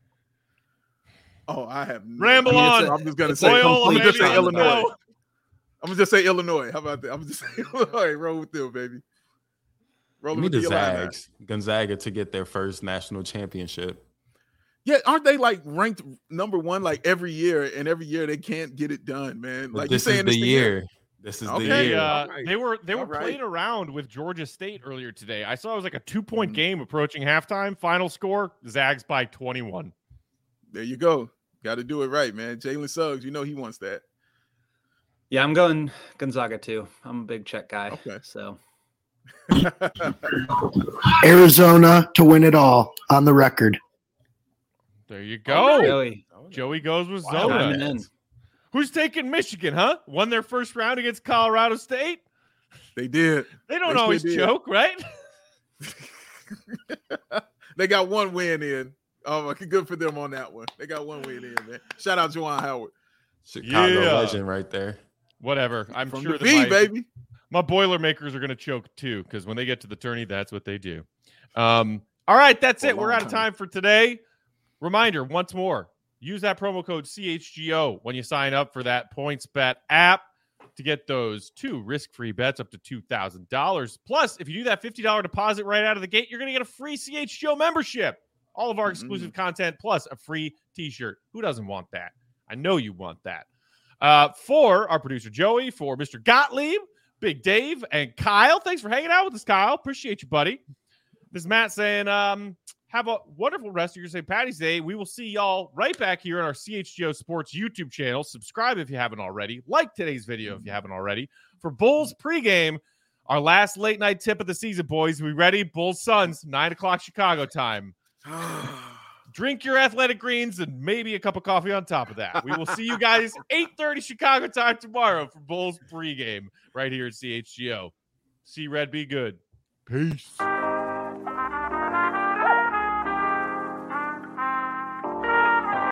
[SPEAKER 3] Oh, I have no
[SPEAKER 1] Ramble
[SPEAKER 3] idea.
[SPEAKER 1] on.
[SPEAKER 3] I'm just gonna
[SPEAKER 4] It's
[SPEAKER 3] say.
[SPEAKER 4] a
[SPEAKER 3] I'm
[SPEAKER 1] Loyola,
[SPEAKER 3] gonna just
[SPEAKER 1] baby,
[SPEAKER 3] say
[SPEAKER 1] let's
[SPEAKER 3] Illinois.
[SPEAKER 1] go.
[SPEAKER 3] I'm gonna just say Illinois. How about that? I'm just say Illinois. Roll with them, baby. Roll
[SPEAKER 2] Give me
[SPEAKER 3] with
[SPEAKER 2] the
[SPEAKER 3] the Illini.
[SPEAKER 2] Zags, Gonzaga to get their first national championship.
[SPEAKER 3] Yeah, aren't they like ranked number one like every year? And every year they can't get it done, man.
[SPEAKER 2] But
[SPEAKER 3] Like you're
[SPEAKER 2] this is
[SPEAKER 3] saying
[SPEAKER 2] the
[SPEAKER 3] this thing-
[SPEAKER 2] year. This is
[SPEAKER 3] Okay.
[SPEAKER 2] the
[SPEAKER 1] They,
[SPEAKER 2] year.
[SPEAKER 1] uh,
[SPEAKER 3] All right.
[SPEAKER 1] they were they were
[SPEAKER 3] All right.
[SPEAKER 1] playing around with Georgia State earlier today. I saw it was like a two point
[SPEAKER 3] Mhm.
[SPEAKER 1] game approaching halftime. Final score: Zags by twenty-one.
[SPEAKER 3] There you go. Got to do it right, man. Jalen Suggs, you know he wants that.
[SPEAKER 4] Yeah, I'm going Gonzaga too. I'm a big Czech guy.
[SPEAKER 3] Okay.
[SPEAKER 4] So
[SPEAKER 5] Arizona to win it all on the record.
[SPEAKER 1] There you go.
[SPEAKER 4] Joey,
[SPEAKER 1] Joey goes with
[SPEAKER 2] Wow.
[SPEAKER 1] Zona.
[SPEAKER 4] chiming in.
[SPEAKER 1] Who's taking Michigan, huh? Won their first round against Colorado State.
[SPEAKER 3] They did.
[SPEAKER 1] They don't
[SPEAKER 3] Yes, they
[SPEAKER 1] always
[SPEAKER 3] did.
[SPEAKER 1] choke, right?
[SPEAKER 3] They got one win in. Oh, good for them on that one. They got one win in, man. Shout out Juwan Howard.
[SPEAKER 2] Chicago
[SPEAKER 1] Yeah.
[SPEAKER 2] legend right there.
[SPEAKER 1] Whatever. I'm
[SPEAKER 3] From
[SPEAKER 1] sure
[SPEAKER 3] the
[SPEAKER 1] that
[SPEAKER 3] V,
[SPEAKER 1] my,
[SPEAKER 3] baby.
[SPEAKER 1] my Boilermakers are going to choke too, because when they get to the tourney, that's what they do. Um, all right, that's
[SPEAKER 3] For a
[SPEAKER 1] it. We're
[SPEAKER 3] long
[SPEAKER 1] out of
[SPEAKER 3] time.
[SPEAKER 1] time for today. Reminder once more: use that promo code C H G O when you sign up for that PointsBet app to get those two risk-free bets up to two thousand dollars. Plus, if you do that fifty dollars deposit right out of the gate, you're going to get a free C H G O membership. All of our exclusive
[SPEAKER 3] Mm-hmm.
[SPEAKER 1] content plus a free t-shirt. Who doesn't want that? I know you want that. Uh, for our producer Joey, for Mister Gottlieb, Big Dave, and Kyle. Thanks for hanging out with us, Kyle. Appreciate you, buddy. This is Matt saying, um, have a wonderful rest of your Saint Patty's Day. We will see y'all right back here on our C H G O Sports YouTube channel. Subscribe if you haven't already. Like today's video if you haven't already. For Bulls pregame, our last late night tip of the season, boys. We ready? Bulls Suns, nine o'clock Chicago time. Drink your athletic greens and maybe a cup of coffee on top of that. We will see you guys eight thirty Chicago time tomorrow for Bulls pregame right here at C H G O. See Red, be good. Peace.